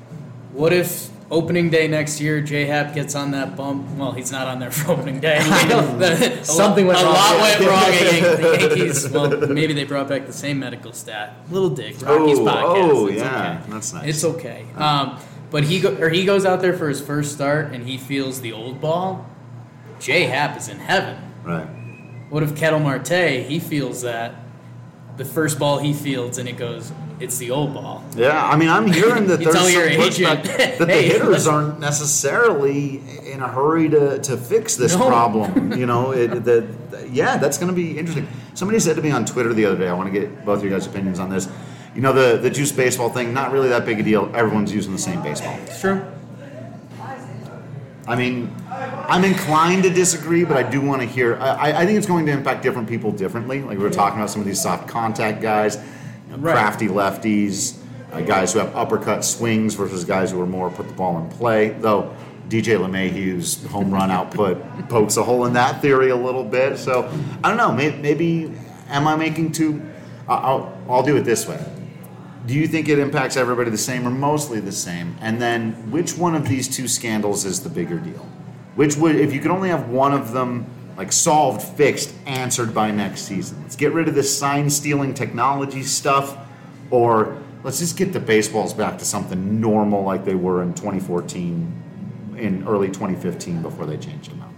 what if opening day next year, J-Hap gets on that bump? Well, he's not on there for opening day. the, Something went a wrong. A lot went wrong at the Yankees. Well, maybe they brought back the same medical stat. Little dig. Rocky's oh, podcast. Oh, it's yeah. Okay. That's nice. It's okay. Um, but he go, or he goes out there for his first start, and he feels the old ball. J-Hap is in heaven. Right. What if Ketel Marte, he feels that the first ball he fields, and it goes, it's the old ball. Yeah, I mean, I'm hearing that You there's tell some your pushback agent, that the hey, hitters listen. aren't necessarily in a hurry to, to fix this No. problem. You know, it, the, yeah, that's going to be interesting. Somebody said to me on Twitter the other day, I want to get both of your guys' opinions on this. You know, the, the juice baseball thing, not really that big a deal. Everyone's using the same baseball. It's true. I mean, I'm inclined to disagree, but I do want to hear. I, I think it's going to impact different people differently. Like we were talking about some of these soft contact guys, you know, Right. crafty lefties, uh, guys who have uppercut swings versus guys who are more put the ball in play. Though D J LeMahieu's home run output pokes a hole in that theory a little bit. So I don't know. Maybe, maybe am I making too? I'll, I'll do it this way. Do you think it impacts everybody the same or mostly the same? And then which one of these two scandals is the bigger deal? Which would, if you could only have one of them like solved, fixed, answered by next season? Let's get rid of this sign stealing technology stuff, or let's just get the baseballs back to something normal like they were in twenty fourteen, in early twenty fifteen before they changed them out.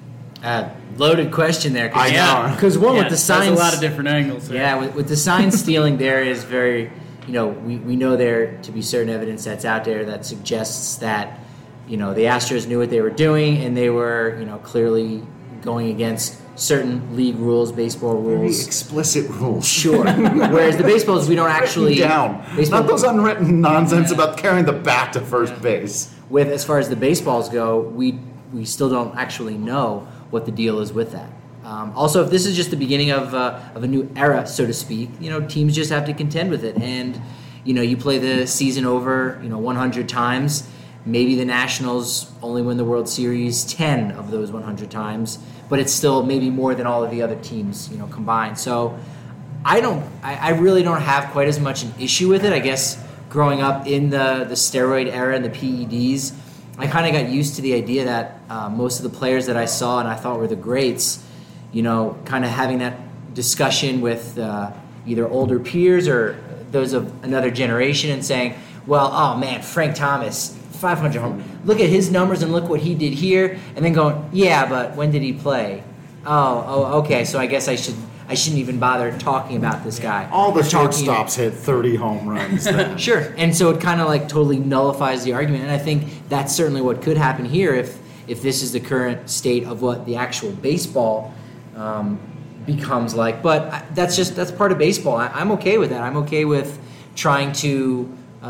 Uh, loaded question there. I know. Because one Yeah, with the there's signs, a lot of different angles there. Yeah, with, with the sign stealing, there is very, you know, we, we know there to be certain evidence that's out there that suggests that, you know, the Astros knew what they were doing and they were, you know, clearly going against certain league rules, baseball Very rules. explicit rules. Sure. Whereas the baseballs, we don't actually down. Baseball, Not those unwritten nonsense about carrying the bat to first base. with as far as the baseballs go, we we still don't actually know what the deal is with that. Um, also, if this is just the beginning of uh, of a new era, so to speak, you know, teams just have to contend with it. And you know, you play the season over, you know, one hundred times. Maybe the Nationals only win the World Series ten of those one hundred times, but it's still maybe more than all of the other teams, you know, combined. So I don't, I, I really don't have quite as much an issue with it. I guess growing up in the, the steroid era and the P E Ds, I kind of got used to the idea that uh, most of the players that I saw and I thought were the greats, you know, kind of having that discussion with uh, either older peers or those of another generation and saying, well, oh man, Frank Thomas, five hundred home. Look at his numbers and look what he did here. And then going, yeah, but when did he play? Oh, oh, okay. So I guess I should, I shouldn't even bother talking about this guy. All the Or talking- shortstops hit thirty home runs then. Sure. And so it kind of like totally nullifies the argument. And I think that's certainly what could happen here if if this is the current state of what the actual baseball um, becomes like. But I, that's just that's part of baseball. I, I'm okay with that. I'm okay with trying to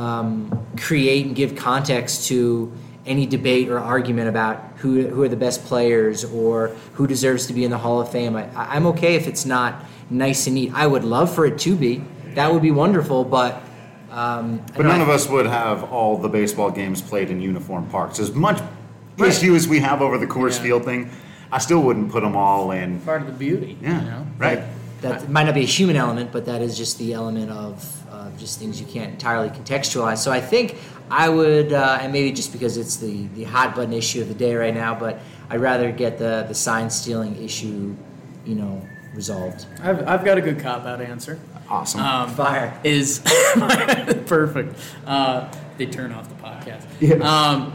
um, create and give context to any debate or argument about who who are the best players or who deserves to be in the Hall of Fame. I, I'm okay if it's not nice and neat. I would love for it to be. That would be wonderful, but um, I But don't none know. of us would have all the baseball games played in uniform parks. As much issue as we have over the Coors Yeah. Field thing, I still wouldn't put them all in. Part of the beauty. Yeah, You know? right. That might not be a human element, but that is just the element of uh, just things you can't entirely contextualize. So I think I would, uh, and maybe just because it's the, the hot button issue of the day right now, but I'd rather get the, the sign stealing issue, you know, resolved. I've, I've got a good cop-out answer. Awesome. Um, Fire. Is perfect. Uh, they turn off the podcast. Yeah. Um,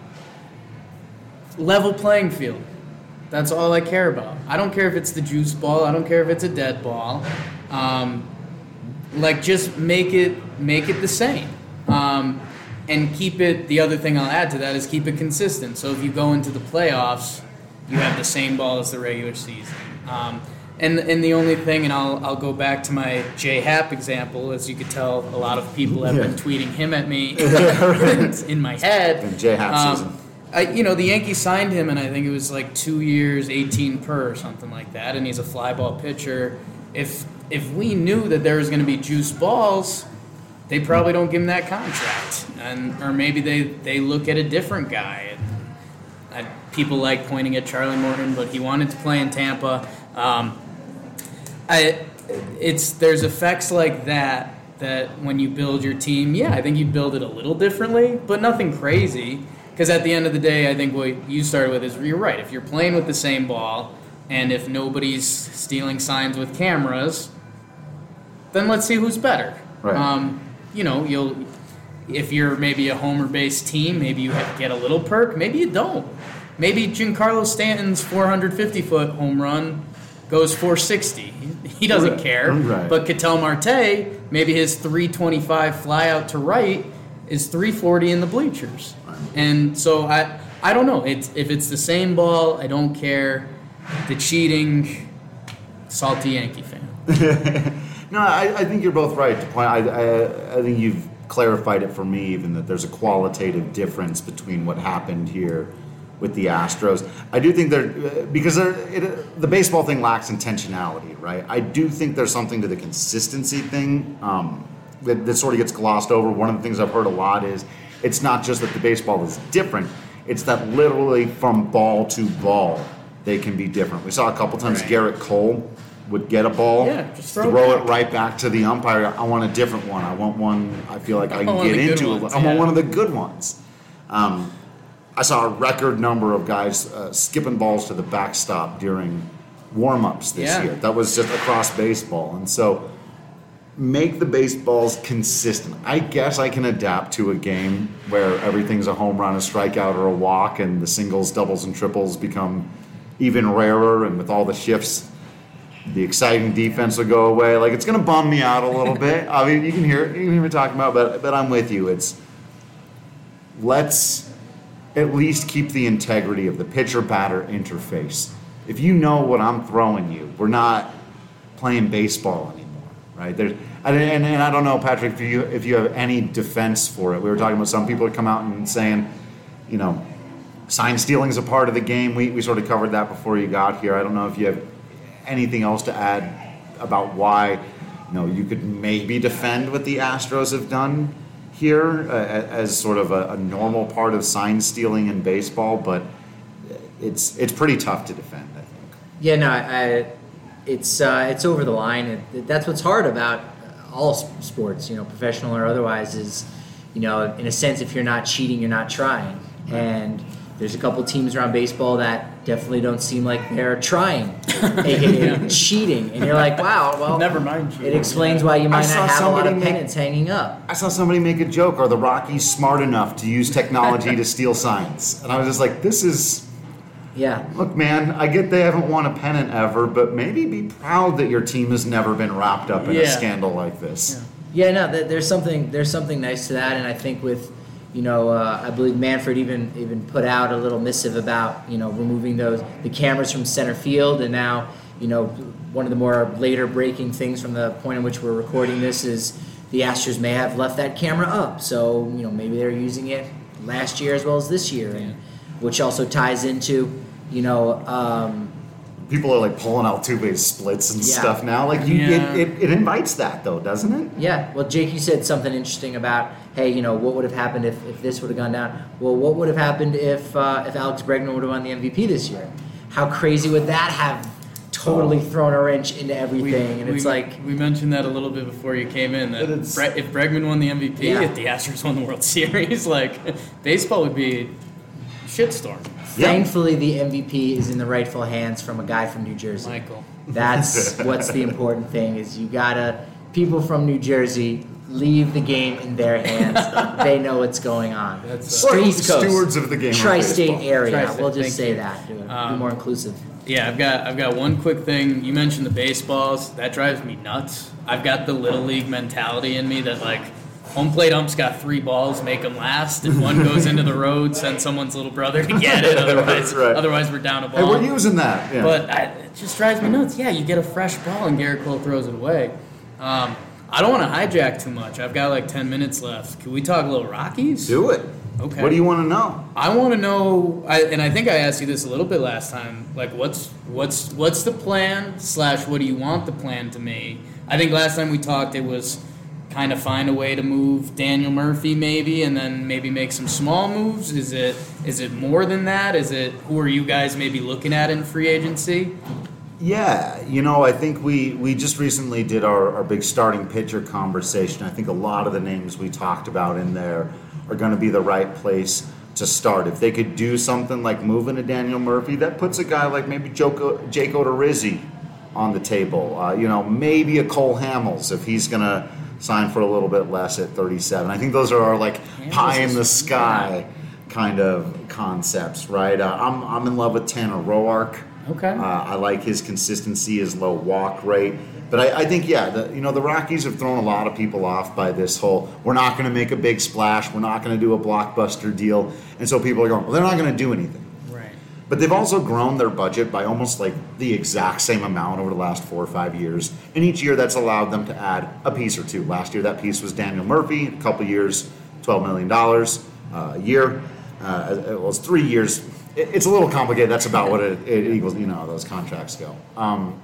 level playing field. That's all I care about. I don't care if it's the juice ball. I don't care if it's a dead ball. Um, like just make it make it the same, um, and keep it. The other thing I'll add to that is keep it consistent. So if you go into the playoffs, you have the same ball as the regular season. Um, and and the only thing, and I'll I'll go back to my J-Hap example. As you could tell, a lot of people have been tweeting him at me in my head. And J-Hap Um, season. I, you know, the Yankees signed him, and I think it was like two years, eighteen per, or something like that. And he's a fly ball pitcher. If if we knew that there was going to be juice balls, they probably don't give him that contract, and or maybe they, they look at a different guy. And, I, people like pointing at Charlie Morton, but he wanted to play in Tampa. Um, I it's there's effects like that that when you build your team, yeah, I think you'd build it a little differently, but nothing crazy. Because at the end of the day, I think what you started with is you're right. If you're playing with the same ball, and if nobody's stealing signs with cameras, then let's see who's better. Right. Um, you know, you'll if you're maybe a homer-based team, maybe you have, get a little perk. Maybe you don't. Maybe Giancarlo Stanton's four hundred fifty foot home run goes four sixty. He doesn't Right. care. Right. But Ketel Marte, maybe his three twenty-five fly out to right is three forty in the bleachers. And so I I don't know. It's if it's the same ball, I don't care. The cheating, salty Yankee fan. No, I, I think you're both right. To point, I, I I think you've clarified it for me even that there's a qualitative difference between what happened here with the Astros. I do think they're because they're, it, the baseball thing lacks intentionality, right? I do think there's something to the consistency thing um, that, that sort of gets glossed over. One of the things I've heard a lot is it's not just that the baseball is different; it's that literally from ball to ball they can be different. We saw a couple times Right. Garrett Cole would get a ball, Yeah, just throw throw it it right back to the umpire. I want a different one. I want one I feel like I can want get the good into. ones, I want yeah. one of the good ones. Um, I saw a record number of guys uh, skipping balls to the backstop during warm-ups this Yeah. year. That was just across baseball. And so make the baseballs consistent. I guess I can adapt to a game where everything's a home run, a strikeout, or a walk, and the singles, doubles, and triples become even rarer, and with all the shifts, the exciting defense will go away. Like, it's going to bum me out a little bit. I mean, you can hear it, you can hear me talking about, but but I'm with you. It's let's at least keep the integrity of the pitcher-batter interface. If you know what I'm throwing you, we're not playing baseball anymore, right? There's, and, and, and I don't know, Patrick, if you if you have any defense for it. We were talking about some people that come out and saying, you know, sign stealing is a part of the game. We we sort of covered that before you got here. I don't know if you have anything else to add about why, you know, you could maybe defend what the Astros have done here uh, as sort of a, a normal part of sign stealing in baseball, but it's it's pretty tough to defend, I think. Yeah, no, I, it's uh, it's over the line. It, that's what's hard about all s- sports, you know, professional or otherwise, is, you know, in a sense, if you're not cheating, you're not trying. And there's a couple teams around baseball that definitely don't seem like they're trying, aka cheating. And you're like, wow, well, Never mind cheating. it explains why you might I saw not have a lot somebody of make- pennants hanging up. I saw somebody make a joke, are the Rockies smart enough to use technology to steal signs? And I was just like, this is, Yeah. look, man, I get they haven't won a pennant ever, but maybe be proud that your team has never been wrapped up in a Yeah. scandal like this. Yeah, no, th- there's something there's something nice to that, and I think with, you know, uh, I believe Manfred even even put out a little missive about, you know, removing those the cameras from center field, and now, you know, one of the more later breaking things from the point in which we're recording this is the Astros may have left that camera up, so, you know, maybe they're using it last year as well as this year, and which also ties into, you know. Um, People are like pulling Altuve's splits and Yeah. stuff now. Like you, Yeah. it, it, it invites that though, doesn't it? Yeah, well, Jake, you said something interesting about, hey, you know, what would have happened if, if this would have gone down? Well, what would have happened if uh, if Alex Bregman would have won the M V P this year? How crazy would that have totally thrown a wrench into everything? and it's we, like, we mentioned that a little bit before you came in. That But it's- Bre- if Bregman won the M V P, Yeah. if the Astros won the World Series, like baseball would be a shitstorm. Yeah. thankfully, the M V P is in the rightful hands from a guy from New Jersey. Michael. That's what's the important thing, is you gotta, people from New Jersey, leave the game in their hands. They know what's going on. That's, Or uh, East Coast. stewards of the game of Tri-state baseball. area. Tri-state, We'll just thank say you. that. Do it. Um, Be more inclusive. Yeah, I've got I've got one quick thing. You mentioned the baseballs. That drives me nuts. I've got the little league mentality in me that, like, home plate ump's got three balls, make them last. If one goes into the road, send someone's little brother to get it. Otherwise, Right. otherwise we're down a Hey, ball. we're using that. Yeah. But I, it just drives me nuts. Yeah, you get a fresh ball and Garrett Cole throws it away. Um, I don't want to hijack too much. I've got like ten minutes left. Can we talk a little Rockies? do it. Okay. What do you want to know? I want to know, I, and I think I asked you this a little bit last time. Like, what's what's what's the plan? Slash, what do you want the plan to be? I think last time we talked, it was kind of find a way to move Daniel Murphy, maybe, and then maybe make some small moves. Is it is it more than that? Is it who are you guys maybe looking at in free agency? Yeah, you know, I think we, we just recently did our, our big starting pitcher conversation. I think a lot of the names we talked about in there are going to be the right place to start. If they could do something like moving a Daniel Murphy, that puts a guy like maybe Joko, Jake Odorizzi on the table. Uh, you know, maybe a Cole Hamels if he's going to sign for a little bit less at thirty-seven. I think those are our like Hamels pie in the sky kind of concepts, right? Uh, I'm I'm in love with Tanner Roark. Okay. Uh, I like his consistency, his low walk rate. But I, I think, yeah, the, you know, the Rockies have thrown a lot of people off by this whole, we're not going to make a big splash, we're not going to do a blockbuster deal. And so people are going, well, they're not going to do anything. Right. But they've also grown their budget by almost like the exact same amount over the last four or five years. And each year that's allowed them to add a piece or two. Last year that piece was Daniel Murphy, a couple years, twelve million dollars uh, a year. Uh, it was three years. It's a little complicated. That's about what it, it equals, you know, those contracts go. Um,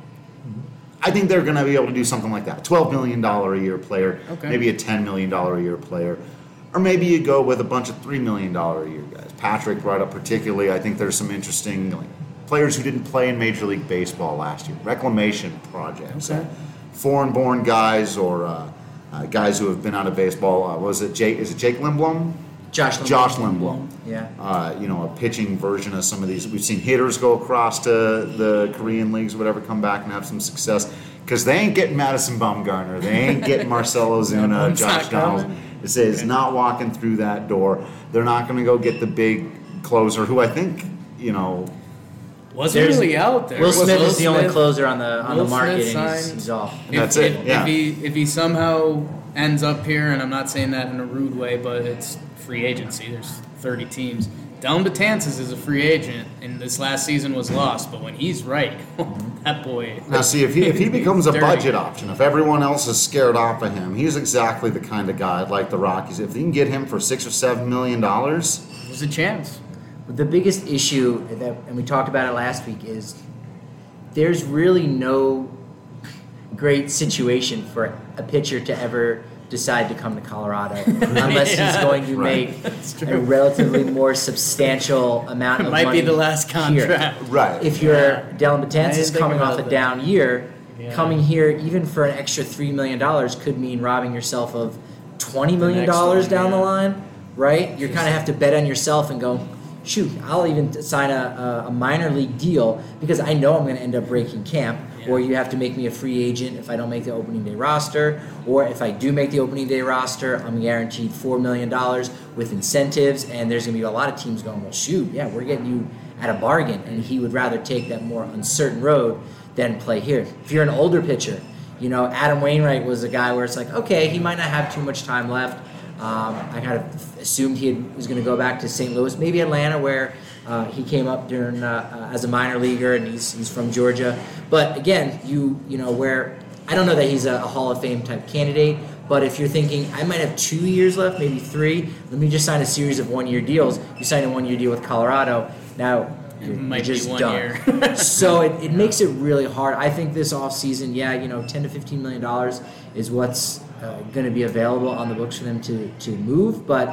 I think they're going to be able to do something like that. twelve million dollars a year player, okay. Maybe a ten million dollars a year player. Or maybe you go with a bunch of three million dollars a year guys. Patrick brought up particularly, I think there's some interesting like, players who didn't play in Major League Baseball last year. Reclamation projects. Okay. Uh, foreign-born guys or uh, uh, guys who have been out of baseball. Uh, was it Jake? Is it Jake Lindblom? Josh Lindblom. Josh Lindblom. Yeah. Uh, you know, a pitching version of some of these. We've seen hitters go across to the Korean leagues or whatever, come back and have some success. Because they ain't getting Madison Bumgarner. They ain't getting Marcell Ozuna, Yeah, Josh Donaldson. It's, it's okay. not walking through that door. They're not going to go get the big closer who I think, you know. Wasn't There's- really out there. Will Smith Will is the only Smith- closer on the on Will the market, Smith and he's, signed- he's off. If, That's if, it, yeah. If he if he somehow ends up here, and I'm not saying that in a rude way, but it's free agency. There's thirty teams. Dellin Betances is a free agent, and this last season was lost. But when he's right, that boy. Now, see, if he, if he becomes a Dirty. budget option, if everyone else is scared off of him, he's exactly the kind of guy like the Rockies. If you can get him for six or seven million dollars, There's a chance. The biggest issue that, and we talked about it last week, is there's really no great situation for a pitcher to ever decide to come to Colorado unless Yeah. he's going to Right. make a relatively more substantial amount It of might money be the last here. contract. right? If you're Yeah. Dellin I Betances didn't think coming about off a that. down year, Yeah. coming here even for an extra three million dollars could mean robbing yourself of twenty million next dollars one, down the yeah. line, right? You kind of have to bet on yourself and go, shoot, I'll even sign a, a, a minor league deal because I know I'm going to end up breaking camp. Yeah. Or you have to make me a free agent if I don't make the opening day roster. Or if I do make the opening day roster, I'm guaranteed four million dollars with incentives. And there's going to be a lot of teams going, well, shoot, yeah, we're getting you at a bargain. And he would rather take that more uncertain road than play here. If you're an older pitcher, you know, Adam Wainwright was a guy where it's like, okay, he might not have too much time left. Um, I kind of assumed he had, was going to go back to Saint Louis, maybe Atlanta, where uh, he came up during uh, uh, as a minor leaguer, and he's he's from Georgia. But again, you you know where I don't know that he's a, a Hall of Fame type candidate. But if you're thinking I might have two years left, maybe three, let me just sign a series of one year deals. You sign a one year deal with Colorado. Now you're, might you're be just one done. year. So it, it makes it really hard. I think this offseason, yeah, you know, ten to fifteen million dollars is what's uh, going to be available on the books for them to, to move. But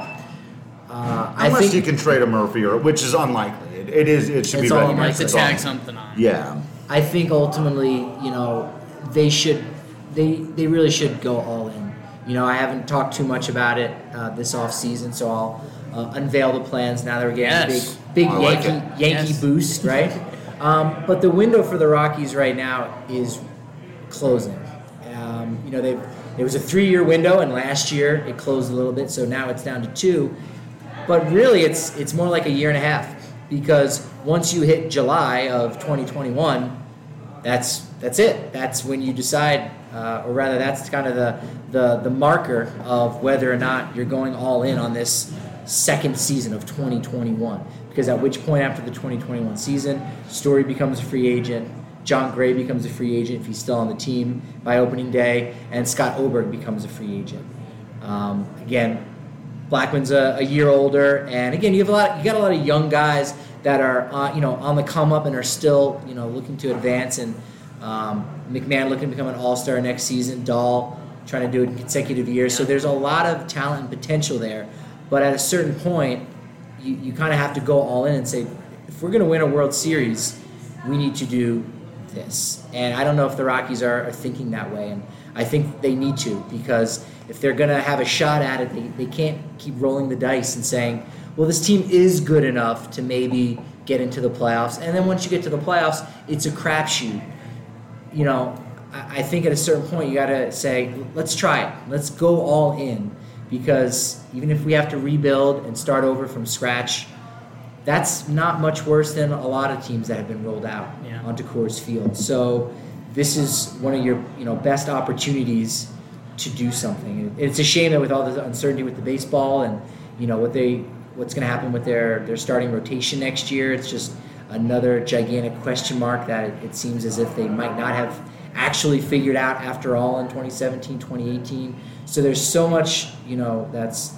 uh, I Unless think you can trade a Murphy, or which is unlikely. It, it is. It should It's be all You recognized. might unlikely. have to It's tag all- something on. Yeah. I think ultimately, you know, they should, they they really should go all in. You know, I haven't talked too much about it uh, this off season, so I'll uh, unveil the plans now that we're getting Yes. a big big I like Yankee it. Yankee Yes. boost, right? um, but the window for the Rockies right now is closing. Um, you know, they it was a three-year window, and last year it closed a little bit, so now it's down to two. But really, it's it's more like a year and a half, because once you hit July of twenty twenty-one, that's that's it. That's when you decide, uh, or rather, that's kind of the, the the marker of whether or not you're going all in on this second season of twenty twenty-one. Because at which point after the twenty twenty-one season, Story becomes a free agent, John Gray becomes a free agent if he's still on the team by opening day, and Scott Oberg becomes a free agent. Um, again, Blackman's a, a year older, and again, you have a lot. You got a lot of young guys that are, uh, you know, on the come up and are still, you know, looking to advance. And um, McMahon looking to become an all-star next season. Dahl trying to do it in consecutive years. So there's a lot of talent and potential there. But at a certain point, you, you kind of have to go all in and say, if we're going to win a World Series, we need to do this. And I don't know if the Rockies are, are thinking that way. And I think they need to, because if they're going to have a shot at it, they, they can't keep rolling the dice and saying, well, this team is good enough to maybe get into the playoffs. And then once you get to the playoffs, it's a crapshoot. You know, I, I think at a certain point you got to say, let's try it. Let's go all in. Because even if we have to rebuild and start over from scratch, that's not much worse than a lot of teams that have been rolled out yeah. onto Coors Field. So this is one of your you know best opportunities to do something. It's a shame that with all the uncertainty with the baseball and you know what they what's going to happen with their, their starting rotation next year, it's just another gigantic question mark that it, it seems as if they might not have actually figured out after all in twenty seventeen, twenty eighteen. So there's so much, you know, that's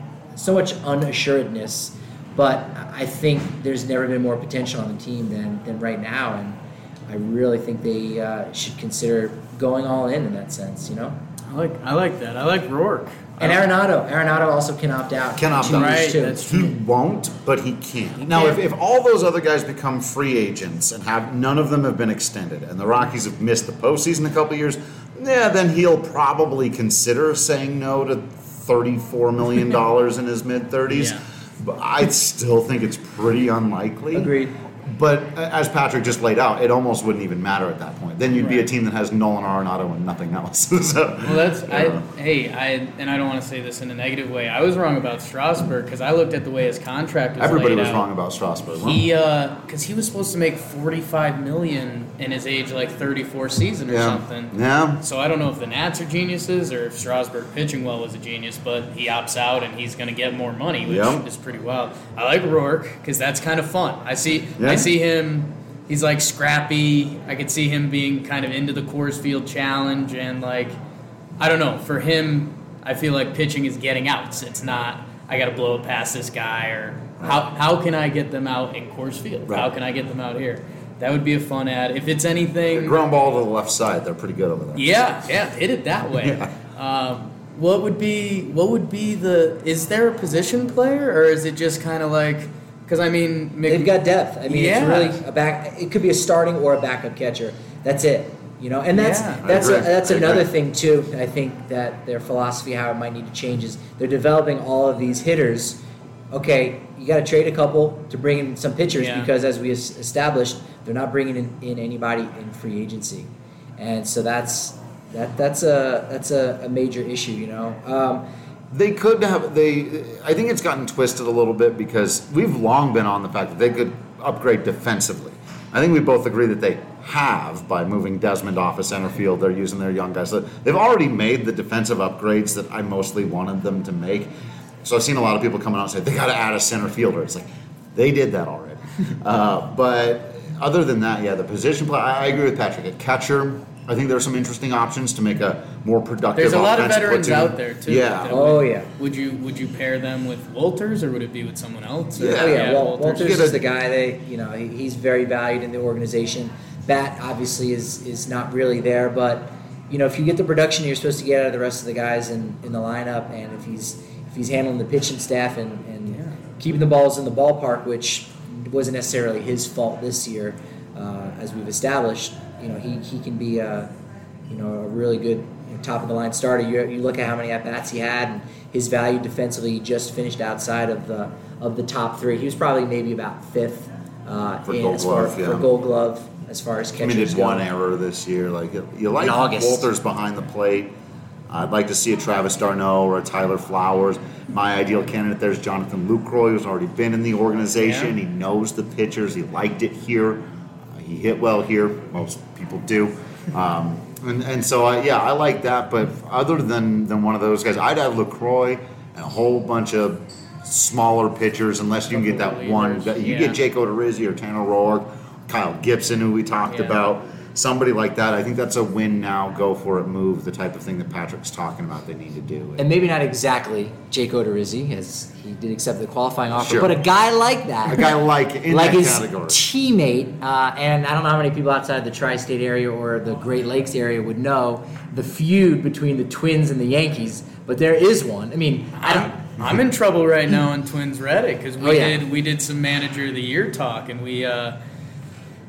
so much unassuredness. But I think there's never been more potential on the team than, than right now. And I really think they uh, should consider going all in in that sense, you know? I like I like that. I like Rourke. And Arenado. Arenado also can opt out. Can opt out. Right, too. that's true. He won't, but he can. He now, can. If, if all those other guys become free agents and have none of them have been extended, and the Rockies have missed the postseason a couple of years, yeah, then he'll probably consider saying no to thirty-four million dollars in his mid-thirties. Yeah. But I still think it's pretty unlikely. Agreed. But as Patrick just laid out, it almost wouldn't even matter at that point. Then you'd right. be a team that has Nolan Arenado and nothing else. so, well, that's yeah. I. Hey, I and I don't want to say this in a negative way. I was wrong about Strasburg because I looked at the way his contract was Everybody laid was out. wrong about Strasburg. He, because uh, he was supposed to make forty-five million in his age like thirty-four season or yeah. something. Yeah. So I don't know if the Nats are geniuses or if Strasburg pitching well was a genius, but he opts out and he's going to get more money, which Yep. is pretty wild. I like Rourke because that's kind of fun. I see. Yeah. I see him. He's like scrappy. I could see him being kind of into the Coors Field Challenge and like, I don't know. For him, I feel like pitching is getting outs. It's not I got to blow it past this guy or how how can I get them out in Coors Field? Right. How can I get them out here? That would be a fun ad. If it's anything, The ground ball to the left side, they're pretty good over there. yeah, yeah, hit it that way. Yeah. Um, what would be what would be the? Is there a position player or is it just kind of like? Because I mean, Mc, They've got depth. I mean, yeah. it's really a back. It could be a starting or a backup catcher. That's it. You know, and that's Yeah. that's a, agree. that's I another agree. thing too. I think that their philosophy, how it might need to change, is they're developing all of these hitters. Okay, you got to trade a couple to bring in some pitchers Yeah. because, as we es- established, they're not bringing in, in anybody in free agency, and so that's that that's a that's a, a major issue. You know. Um, They could have, they, I think it's gotten twisted a little bit because we've long been on the fact that they could upgrade defensively. I think we both agree that they have by moving Desmond off of center field. They're using their young guys. So they've already made the defensive upgrades that I mostly wanted them to make. So I've seen a lot of people coming out and say, they got to add a center fielder. It's like, they did that already. uh, but other than that, yeah, the position play, I, I agree with Patrick. At catcher, I think there's some interesting options to make a more productive There's a lot of offensive veterans platoon. out there too. Yeah. that Oh, would- yeah. Would you would you pair them with Walters or would it be with someone else? Or- Yeah. Oh yeah, Wal- Walters. Walters Get is a- the guy. They, you know, he, he's very valued in the organization. Bat obviously is is not really there, but you know, if you get the production you're supposed to get out of the rest of the guys in, in the lineup, and if he's if he's handling the pitching staff and, and Yeah. keeping the balls in the ballpark, which wasn't necessarily his fault this year, uh, as we've established, you know, he, he can be a you know a really good you know, top of the line starter. You you look at how many at bats he had and his value defensively. He just finished outside of the of the top three. He was probably maybe about fifth uh, For in Gold as far, Glove, yeah. for Gold Glove as far as I catchers mean, did go. one error this year. Like you like In August. Walters behind the plate. I'd like to see a Travis d'Arnaud or a Tyler Flowers. My ideal candidate there is Jonathan Lucroy, who's already been in the organization. Yeah. He knows the pitchers. He liked it here. Uh, he hit well here. Most people do. Um, and, and so, I, yeah, I like that. But other than, than one of those guys, I'd have Lucroy and a whole bunch of smaller pitchers, unless you can get that Couple one. relievers, You yeah. get Jake Odorizzi or Tanner Roark, Kyle Gibson, who we talked Yeah. about. Somebody like that. I think that's a win now, go for it move, the type of thing that Patrick's talking about they need to do. And maybe not exactly Jake Odorizzi, as he did accept the qualifying offer, Sure. but a guy like that. A guy like in like that his category. teammate, uh, and I don't know how many people outside the tri-state area or the Great Lakes area would know the feud between the Twins and the Yankees, but there is one. I mean, I don't. I'm, I'm in trouble right now on Twins Reddit because we Oh, yeah. did we did some manager of the year talk and we uh,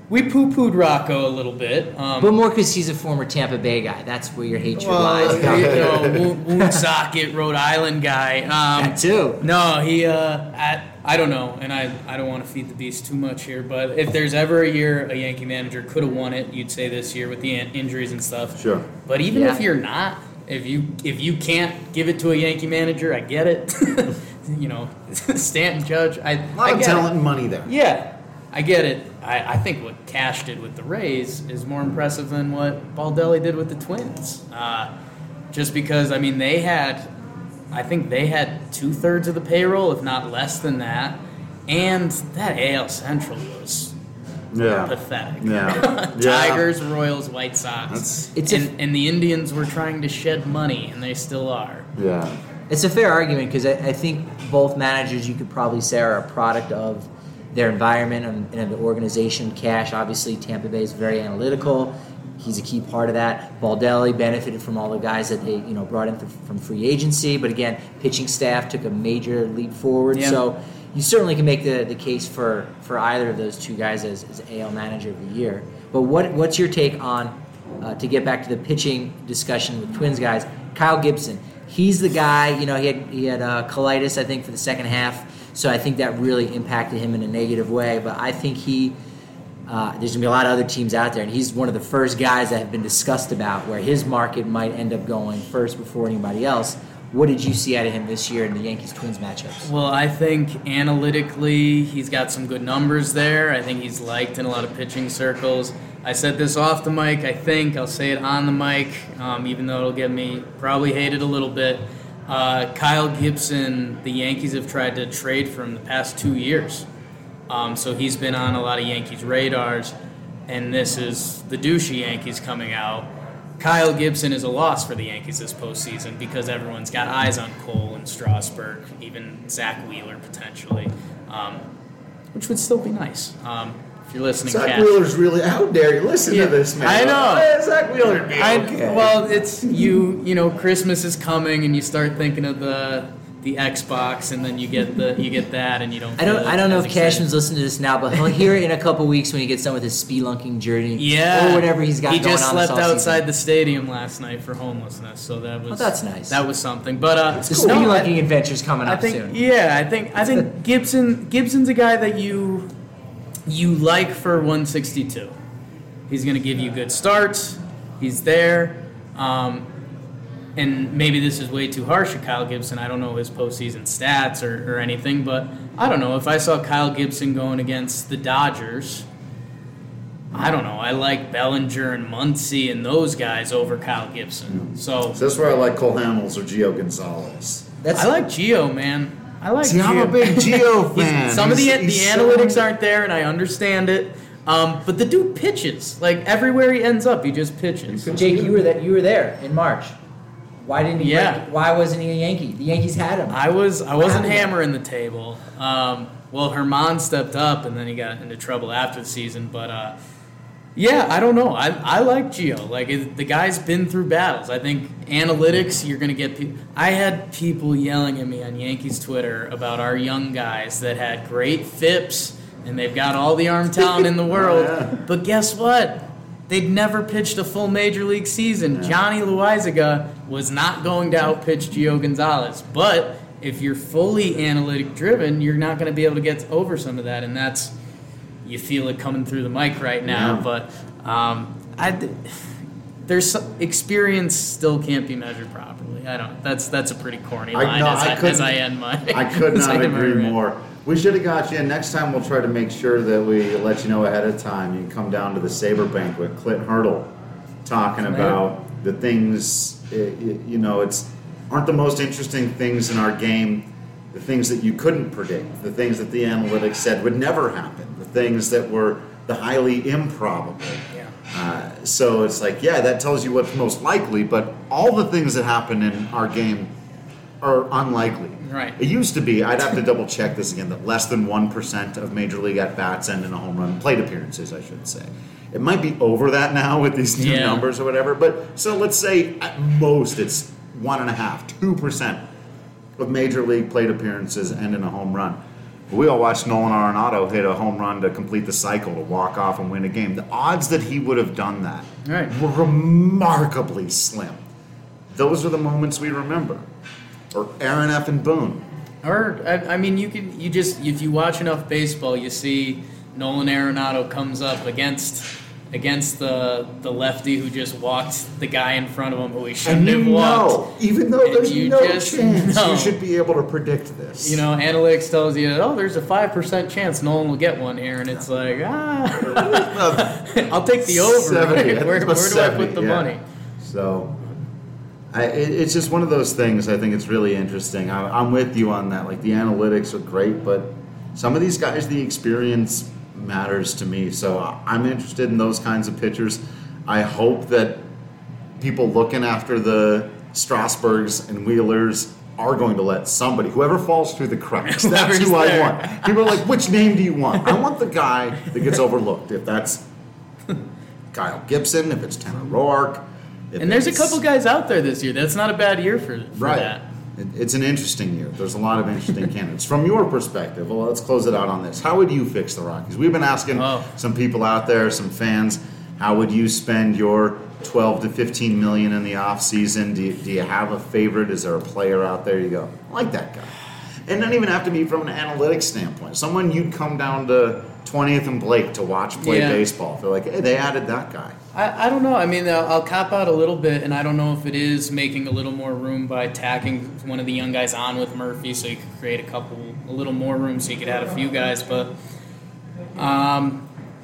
we poo-pooed Rocco a little bit. Um, But more because he's a former Tampa Bay guy. That's where your hatred well, lies. you know, Woonsocket, Rhode Island guy. Um, That too. No, he. Uh, I, I don't know, and I, I don't want to feed the beast too much here. But if there's ever a year a Yankee manager could have won it, you'd say this year with the in- injuries and stuff. Sure. But even Yeah. if you're not, if you if you can't give it to a Yankee manager, I get it. You know, Stanton, Judge. I, A lot I of get talent it. and money there. Yeah, I get it. I, I think what Cash did with the Rays is more impressive than what Baldelli did with the Twins. Uh, just because, I mean, they had, I think they had two-thirds of the payroll, if not less than that. And that A L Central was Yeah. pathetic. Yeah. Tigers, Royals, White Sox. That's- It's a- and, and the Indians were trying to shed money, and they still are. Yeah. It's a fair argument because I, I think both managers, you could probably say, are a product of their environment and, and the organization. Cash, obviously, Tampa Bay is very analytical. He's a key part of that. Baldelli benefited from all the guys that they you know brought in th- from free agency, but again, pitching staff took a major leap forward. Yeah. So you certainly can make the, the case for, for either of those two guys as, as A L manager of the year. But what what's your take on, uh, to get back to the pitching discussion with Twins guys, Kyle Gibson? He's the guy, you know, he had he had uh, colitis, I think, for the second half, so I think that really impacted him in a negative way. But I think he, uh, there's going to be a lot of other teams out there, and he's one of the first guys that have been discussed about where his market might end up going first before anybody else. What did you see out of him this year in the Yankees-Twins matchups? Well, I think analytically he's got some good numbers there. I think he's liked in a lot of pitching circles. I said this off the mic, I think. I'll say it on the mic, um, even though it'll get me probably hated a little bit. Uh, Kyle Gibson, the Yankees have tried to trade for him the past two years. Um, so he's been on a lot of Yankees radars, and this is the douchey Yankees coming out. Kyle Gibson is a loss for the Yankees this postseason because everyone's got eyes on Cole and Strasburg, even Zach Wheeler potentially, um, which would still be nice. Um, if you're listening, Zach Cash. Wheeler's really out there. You listen Yeah, to this, man. I know. Hey, Zach Wheeler be I, okay. Well, it's you. You know, Christmas is coming, and you start thinking of the the Xbox, and then you get the you get that, and you don't. I don't. feel I don't know as if excited. Cashman's listening to this now, but he'll hear it in a couple weeks when he gets done with his spelunking journey, Yeah, or whatever he's got He going just on. this slept offseason. outside the stadium last night for homelessness, so that was. Oh, that's nice. That was something, but uh, The no, I- spelunking adventure's coming I up think soon. yeah, I think I think Gibson Gibson's a guy that you you like for one sixty-two. He's going to give you good starts. He's there. Um, and maybe this is way too harsh to Kyle Gibson. I don't know his postseason stats or, or anything, but I don't know. If I saw Kyle Gibson going against the Dodgers, I don't know. I like Bellinger and Muncy and those guys over Kyle Gibson. So So that's where I like Cole Hamels or Gio Gonzalez. That's I like Gio, man. I like See, Gio. I'm a big Gio He's- fan. Some of the He's- the he's analytics so- aren't there, and I understand it. Um, but the dude pitches. Like everywhere he ends up, he just pitches. Jake. You were that. You were there in March. Why didn't he? Yeah. break- why wasn't he a Yankee? The Yankees had him. I was I wasn't happened? hammering the table. Um, well, Herman stepped up, and then he got into trouble after the season. But uh, yeah, I don't know. I I like Gio. Like it, the guy's been through battles. I think analytics, you're gonna get. Pe- I had people yelling at me on Yankees Twitter about our young guys that had great F I Ps and they've got all the arm talent in the world. Oh, yeah. But guess what? They'd never pitched a full major league season. Yeah. Johnny Loizaga was not going to outpitch Gio Gonzalez. But if you're fully analytic driven, you're not going to be able to get over some of that, and that's you feel it coming through the mic right now. Yeah. But um, I, there's some, experience still can't be measured properly. I don't. That's that's a pretty corny I- line no, as, I I, couldn't- as I end my. I could as I not end my agree rant. more. We should have got you in. Next time we'll try to make sure that we let you know ahead of time. You can come down to the Sabre Banquet, Clint Hurdle, talking Clint. about the things, eh, you know, it's aren't the most interesting things in our game, the things that you couldn't predict, the things that the analytics said would never happen, the things that were the highly improbable. Yeah. Uh, so it's like, yeah, that tells you what's most likely, but all the things that happen in our game are unlikely. Right. It used to be, I'd have to double check this again, that less than one percent of Major League at-bats end in a home run, plate appearances, I should say. It might be over that now with these new Yeah. numbers or whatever, but so let's say at most it's one and a half, two percent of Major League plate appearances end in a home run. We all watched Nolan Arenado hit a home run to complete the cycle to walk off and win a game. The odds that he would have done that right. were remarkably slim. Those are the moments we remember. Or Aaron F. and Boone. Or I, I mean, you can you just if you watch enough baseball, you see Nolan Arenado comes up against against the the lefty who just walked the guy in front of him who he shouldn't and have walked. Know, even though there's no just chance, know. you should be able to predict this. You know, analytics tells you, oh, there's a five percent chance Nolan will get one here, and it's like, ah, I'll take the over. seventy, Right? Where, where do seventy, I put the yeah. money? So, I, it, it's just one of those things. I think it's really interesting. I, I'm with you on that. Like the analytics are great, but some of these guys, the experience matters to me. So I'm interested in those kinds of pitchers. I hope that people looking after the Strasburgs and Wheelers are going to let somebody, whoever falls through the cracks, that's who I there. want. People are like, which name do you want? I want the guy that gets overlooked. If that's Kyle Gibson, if it's Tanner Roark. If And there's a it's- couple guys out there this year. That's not a bad year for, for right. that. It, it's an interesting year. There's a lot of interesting candidates. From your perspective, well, let's close it out on this. How would you fix the Rockies? We've been asking Oh. some people out there, some fans, how would you spend your twelve to fifteen million in the offseason? Do you, do you have a favorite? Is there a player out there you go, I like that guy? And not even have to be from an analytics standpoint. Someone you'd come down to twentieth and Blake to watch play Yeah. baseball. They're like, hey, they added that guy. I, I don't know. I mean, I'll, I'll cop out a little bit, and I don't know if it is making a little more room by tacking one of the young guys on with Murphy, so you could create a couple, a little more room, so you could add a few guys. But um,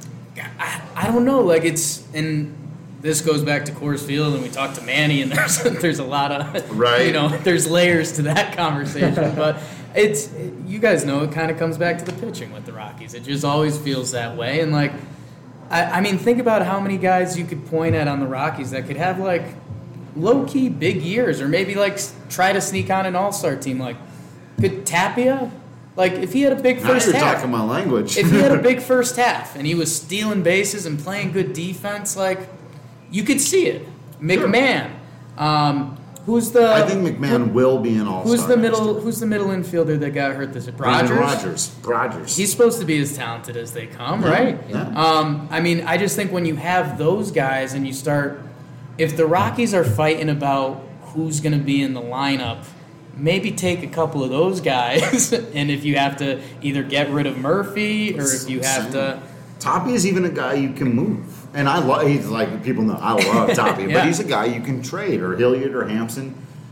I, I don't know. Like it's and this goes back to Coors Field, and we talked to Manny, and there's there's a lot of Right. you know, there's layers to that conversation, but. It's you guys know it kind of comes back to the pitching with the Rockies. It just always feels that way, and like, I, I mean, think about how many guys you could point at on the Rockies that could have like low key big years, or maybe like try to sneak on an All Star team. Like, could Tapia, like if he had a big Now first you're half, talking my language. if he had a big first half and he was stealing bases and playing good defense, like you could see it. McMahon. Um, Who's the? I think McMahon will be an all-star. Who's the next middle? year. Who's the middle infielder that got hurt this year? Brandon Rogers. Rogers. Rogers. He's supposed to be as talented as they come, Yeah, right? yeah. Um, I mean, I just think when you have those guys and you start, if the Rockies are fighting about who's going to be in the lineup, maybe take a couple of those guys, and if you have to either get rid of Murphy or if you have to. Toppy is even a guy you can move. And I love, he's like, people know, I love Toppy, Yeah. but he's a guy you can trade, or Hilliard or Hampson.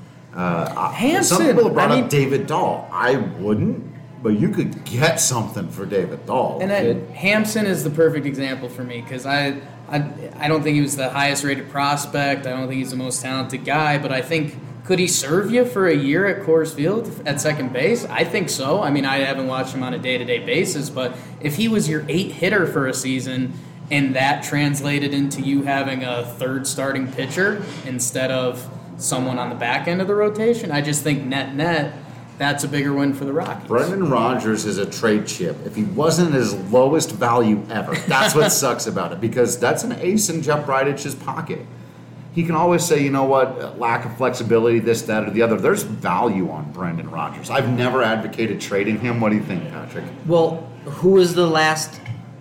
Uh, Hampson, Some people have brought I mean- up David Dahl. I wouldn't, but you could get something for David Dahl. And then Hampson is the perfect example for me because I, I, I don't think he was the highest rated prospect. I don't think he's the most talented guy, but I think could he serve you for a year at Coors Field at second base? I think so. I mean, I haven't watched him on a day-to-day basis, but if he was your eight hitter for a season and that translated into you having a third starting pitcher instead of someone on the back end of the rotation, I just think net-net, that's a bigger win for the Rockies. Brendan Rodgers is a trade chip. If he wasn't his lowest value ever, that's what sucks about it, because that's an ace in Jeff Bridic's pocket. He can always say, you know what, lack of flexibility, this, that, or the other. There's value on Brendan Rodgers. I've never advocated trading him. What do you think, Patrick? Well, who was the last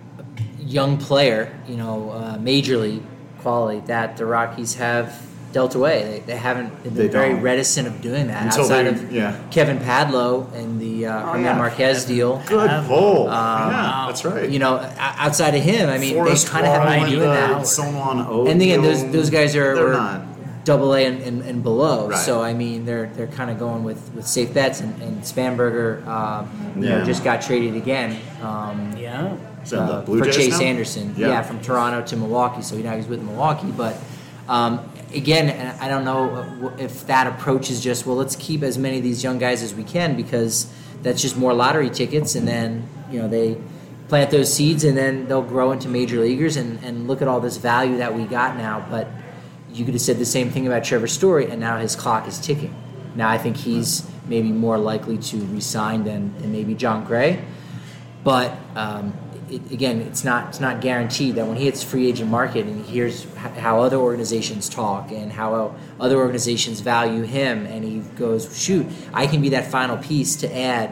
young player, you know, uh, major league quality that the Rockies have dealt away? They, they haven't they've been They very don't. reticent of doing that Until outside they- of yeah. Kevin Padlow and the uh, Herman yeah. Marquez deal. Good pull. Um, yeah, that's right. You know, o- outside of him, I mean, Forrest they kind of haven't Wall been and, doing uh, that. Solon Oak, And again, those you know, those guys are they're were not. double A and, and, and below. Right. So I mean, they're they're kind of going with, with safe bets. And, and Spanberger, um, you Yeah. know, just got traded again. Um, Yeah. So the uh, Blue for Jays Chase now? Anderson. Yeah. Yeah. from Toronto to Milwaukee. So now he's with Milwaukee. But um, again, and I don't know if that approach is just, well, let's keep as many of these young guys as we can, because that's just more lottery tickets, and then you know they plant those seeds and then they'll grow into major leaguers, and, and look at all this value that we got now. But you could have said the same thing about Trevor Story, and now his clock is ticking. Now I think he's maybe more likely to resign than, than maybe John Gray. But um, it, again, it's not it's not guaranteed that when he hits free agent market and he hears h- how other organizations talk and how other organizations value him, and he goes, shoot, I can be that final piece to add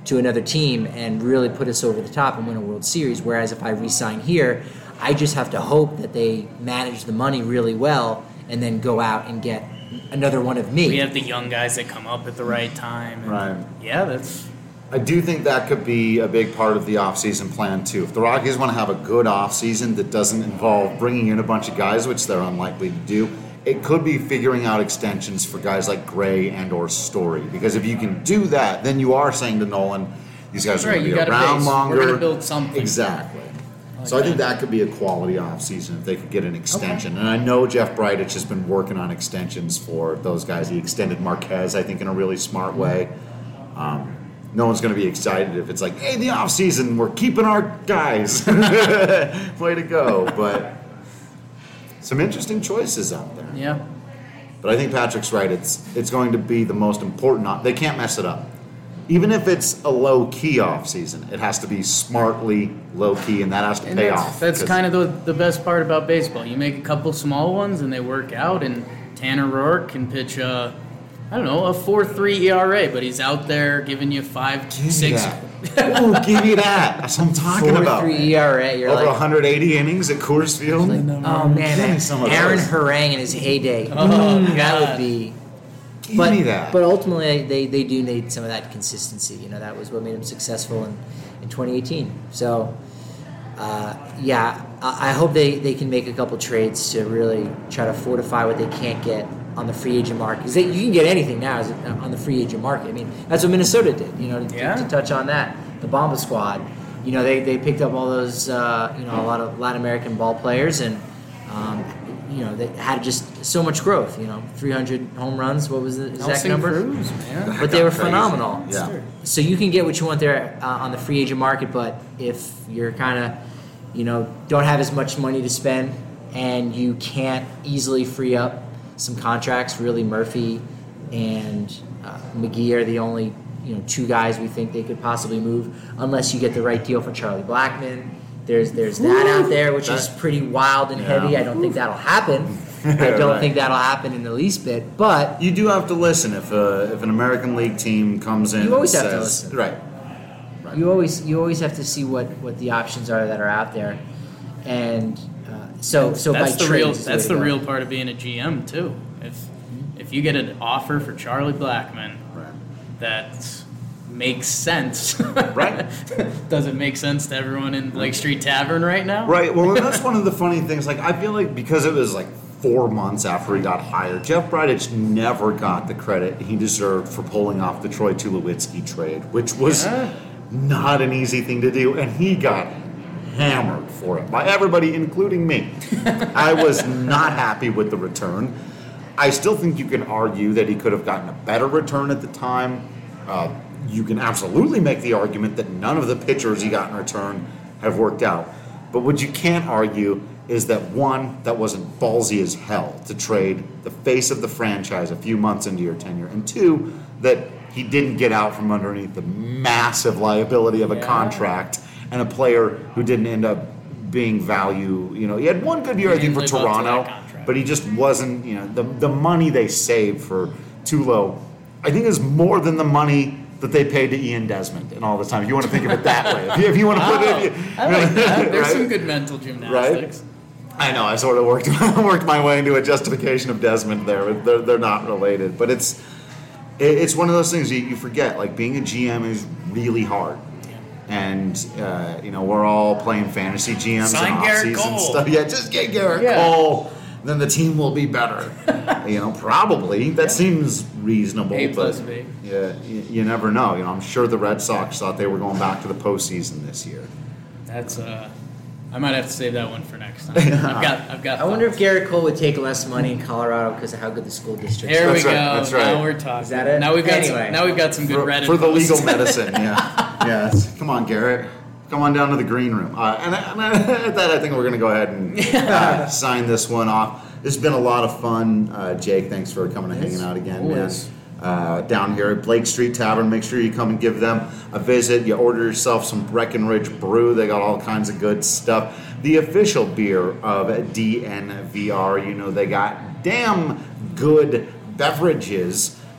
to another team and really put us over the top and win a World Series. Whereas if I re-sign here, I just have to hope that they manage the money really well and then go out and get another one of me. We have the young guys that come up at the right time. And Right. Yeah, that's... I do think that could be a big part of the offseason plan, too. If the Rockies want to have a good offseason that doesn't involve bringing in a bunch of guys, which they're unlikely to do, it could be figuring out extensions for guys like Gray and or Story. Because if you can do that, then you are saying to Nolan, these guys are right, going to you be got a around base. longer. We're going to build something. Exactly. Like so I think that. that could be a quality offseason if they could get an extension. And I know Jeff Bridich has been working on extensions for those guys. He extended Marquez, I think, in a really smart way. Um, no one's going to be excited if it's like, hey, the offseason, we're keeping our guys. Way to go. But some interesting choices out there. Yeah. But I think Patrick's right. It's it's going to be the most important. Op- they can't mess it up. Even if it's a low-key offseason, it has to be smartly low-key, and that has to And pay that's, off. that's 'cause- kind of the, the best part about baseball. You make a couple small ones and they work out, and Tanner Roark can pitch a, I don't know, a four three E R A, but he's out there giving you five, Give me six. that. Ooh, give me that. That's what I'm talking four about. three E R A. You're Over like, one hundred eighty innings at Coors Field. oh man, Give me that some of Aaron those. Harang in his heyday. Oh, Mm, that God. would be. Give But, me that. but ultimately, they, they do need some of that consistency. You know, that was what made them successful in, in twenty eighteen. So, uh, yeah, I, I hope they, they can make a couple trades to really try to fortify what they can't get on the free agent market. Because you can get anything now as, on the free agent market. I mean, that's what Minnesota did, you know, to, Yeah. to touch on that. The Bomba squad, you know, they, they picked up all those, uh, you know, a lot of Latin American ball players and, um, you know, they had just so much growth, you know, three hundred home runs. What was the exact Nelson number? Cruz, man. But they were Crazy. phenomenal. Yeah. So you can get what you want there uh, on the free agent market, but if you're kind of, you know, don't have as much money to spend and you can't easily free up some contracts, really Murphy and uh, McGee are the only, you know, two guys we think they could possibly move unless you get the right deal for Charlie Blackmon. There's there's that out there, which is pretty wild and Yeah. heavy. I don't think that'll happen. I don't Right. think that'll happen in the least bit, but You do have to listen if a, if an American League team comes in. You always and have to says, listen. Right. you always you always have to see what, what the options are that are out there, and uh, so so That's by the real. trades is That's way the to go. real part of being a G M too. If if you get an offer for Charlie Blackmon Right. that makes sense, Right. Does it make sense to everyone in Lake Street Tavern right now? Right. Well, and that's one of the funny things. Like, I feel like because it was like four months after he got hired, Jeff Bridich never got the credit he deserved for pulling off the Troy Tulowitzki trade, which was Yeah. not an easy thing to do, and he got hammered for it by everybody, including me. I was not happy with the return. I still think you can argue that he could have gotten a better return at the time. Uh, you can absolutely make the argument that none of the pitchers he got in return have worked out. But what you can't argue is that, one, that wasn't ballsy as hell to trade the face of the franchise a few months into your tenure, and two, that he didn't get out from underneath the massive liability of a Yeah. contract and a player who didn't end up being value. You know, he had one good year, He I think, for didn't live up to that Toronto, contract. but he just wasn't, you know, the, the money they saved for Tulo, I think, is more than the money that they paid to Ian Desmond and all the time. If you want to think of it that way. If you, if you want to put it, if you, I like that. There's right? some good mental gymnastics. I know. I sort of worked worked my way into a justification of Desmond there. But they're they're not related, but it's it, it's one of those things you, you forget. Like, being a G M is really hard, and uh, you know, we're all playing fantasy G Ms Sign and Garrett off-season Cole. stuff. Yeah, just get Garrett Yeah. Cole. Then the team will be better. You know, probably that seems reasonable. A plus but B. Yeah, you, you never know. You know, I'm sure the Red Sox thought they were going back to the postseason this year. That's uh, I might have to save that one for next time. I've got. I've got. I wonder if thoughts. Garrett Cole would take less money in Colorado because of how good the school district There is. we That's go. right, that's right. Now we're talking. Is that it? Now we've got. Anyway. Some, now we've got some good for, Reddit for the posts. legal medicine. Yeah, yeah. it's- Come on, Garrett. Come on down to the green room. Uh, and I- and I- at that, I think we're going to go ahead and uh, sign this one off. This has been a lot of fun, uh, Jake. Thanks for coming and hanging out again, Always. man. Uh, down here at Blake Street Tavern. Make sure you come and give them a visit. You order yourself some Breckenridge Brew. They got all kinds of good stuff. The official beer of D N V R. You know, they got damn good beverages. Uh,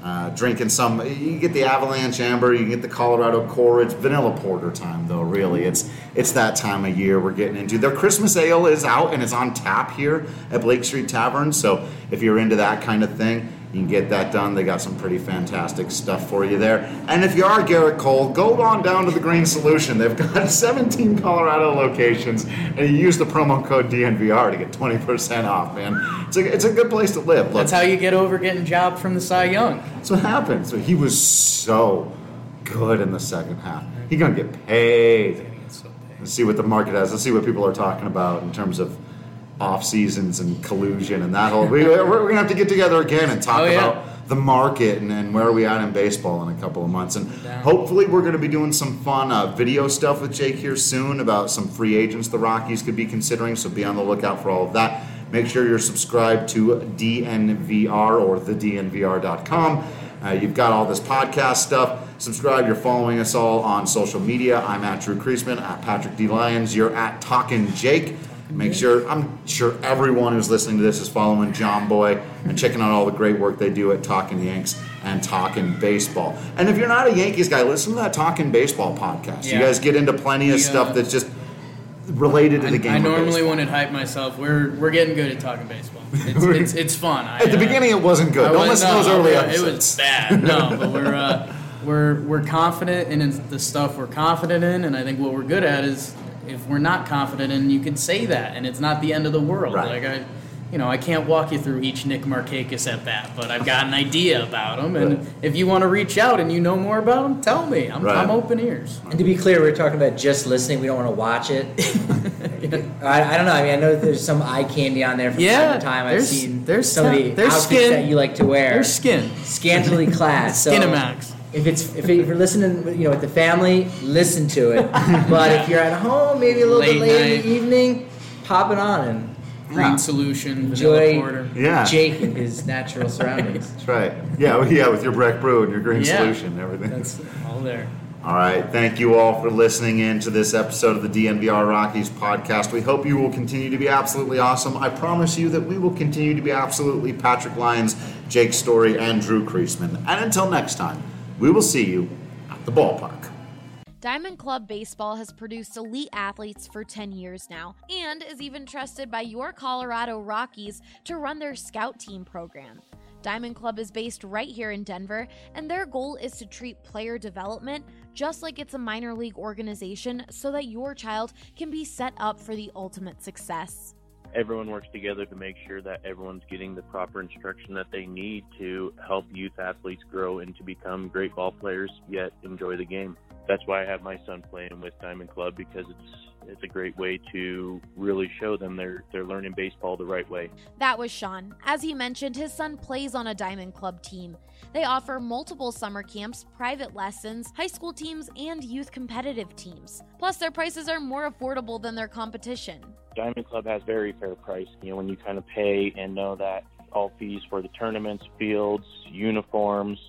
uh, drinking some. You get the Avalanche Amber, you can get the Colorado Core. It's vanilla porter time, though. Really, it's it's that time of year we're getting into. Their Christmas ale is out and it's on tap here at Blake Street Tavern. So if you're into that kind of thing, you can get that done. They got some pretty fantastic stuff for you there. And if you are Garrett Cole, go on down to the Green Solution. They've got seventeen Colorado locations, and you use the promo code D N V R to get twenty percent off, man. It's a, it's a good place to live. Look, that's how you get over getting jobbed from the Cy Young. That's what happens. So he was so good in the second half. He's going to get paid. Let's see what the market has. Let's see what people are talking about in terms of off seasons and collusion and that whole. We, we're going to have to get together again and talk oh, yeah. about the market and, and where are we at in baseball in a couple of months. And yeah. hopefully we're going to be doing some fun uh, video stuff with Jake here soon about some free agents the Rockies could be considering. So be on the lookout for all of that. Make sure you're subscribed to D N V R or the D N V R dot com. Uh, you've got all this podcast stuff. Subscribe. You're following us all on social media. I'm at Drew Creasman, at Patrick D. Lyons. You're at Talkin' Jake. Make sure, I'm sure everyone who's listening to this is following John Boy and checking out all the great work they do at Talkin' Yanks and Talkin' Baseball. And if you're not a Yankees guy, listen to that Talkin' Baseball podcast. Yeah. You guys get into plenty of yeah. stuff that's just related to the game. I of normally baseball. wouldn't hype myself. We're we're getting good at talking baseball. It's it's, it's fun. I, at the uh, beginning, it wasn't good. I Don't was, listen no, to those early no, episodes. It was bad. No, but we're uh, we're we're confident in the stuff we're confident in, and I think what we're good at is if we're not confident in, you can say that, and it's not the end of the world. Right. Like I. You know, I can't walk you through each Nick Markakis at bat, but I've got an idea about him, and right. if you want to reach out and you know more about him, tell me. I'm, right. I'm open ears. And to be clear, we're talking about just listening. We don't want to watch it. yeah. I, I don't know. I mean, I know there's some eye candy on there from yeah, time to time. I've seen there's some of the outfits skin. that you like to wear. There's skin. Scantily clad. So Skinamax. If it's if you're listening, you know, with the family, listen to it. But if you're at home, maybe a little Late bit late night. in the evening, pop it on and Green yeah. Solution, enjoy vanilla porter. Yeah. Jake in his natural surroundings. That's right. Yeah, well, yeah, with your Breck Brew and your Green Yeah. Solution and everything. That's all there. All right. Thank you all for listening in to this episode of the D N V R Rockies podcast. We hope you will continue to be absolutely awesome. I promise you that we will continue to be absolutely Patrick Lyons, Jake Story, and Drew Creasman. And until next time, we will see you at the ballpark. Diamond Club Baseball has produced elite athletes for ten years now and is even trusted by your Colorado Rockies to run their scout team program. Diamond Club is based right here in Denver, and their goal is to treat player development just like it's a minor league organization so that your child can be set up for the ultimate success. Everyone works together to make sure that everyone's getting the proper instruction that they need to help youth athletes grow and to become great ball players, yet enjoy the game. That's why I have my son playing with Diamond Club, because it's it's a great way to really show them they're they're learning baseball the right way. That was Sean. As he mentioned, his son plays on a Diamond Club team. They offer multiple summer camps, private lessons, high school teams, and youth competitive teams. Plus, their prices are more affordable than their competition. Diamond Club has very fair price. You know, when you kind of pay and know that all fees for the tournaments, fields, uniforms,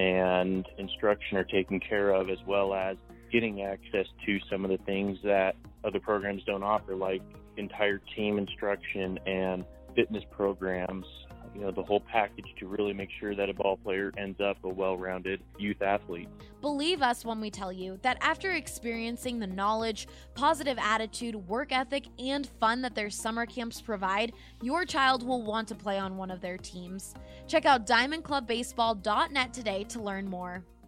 and instruction are taken care of, as well as getting access to some of the things that other programs don't offer, like entire team instruction and fitness programs, you know, the whole package to really make sure that a ball player ends up a well-rounded youth athlete. Believe us when we tell you that after experiencing the knowledge, positive attitude, work ethic, and fun that their summer camps provide, your child will want to play on one of their teams. Check out diamond club baseball dot net today to learn more.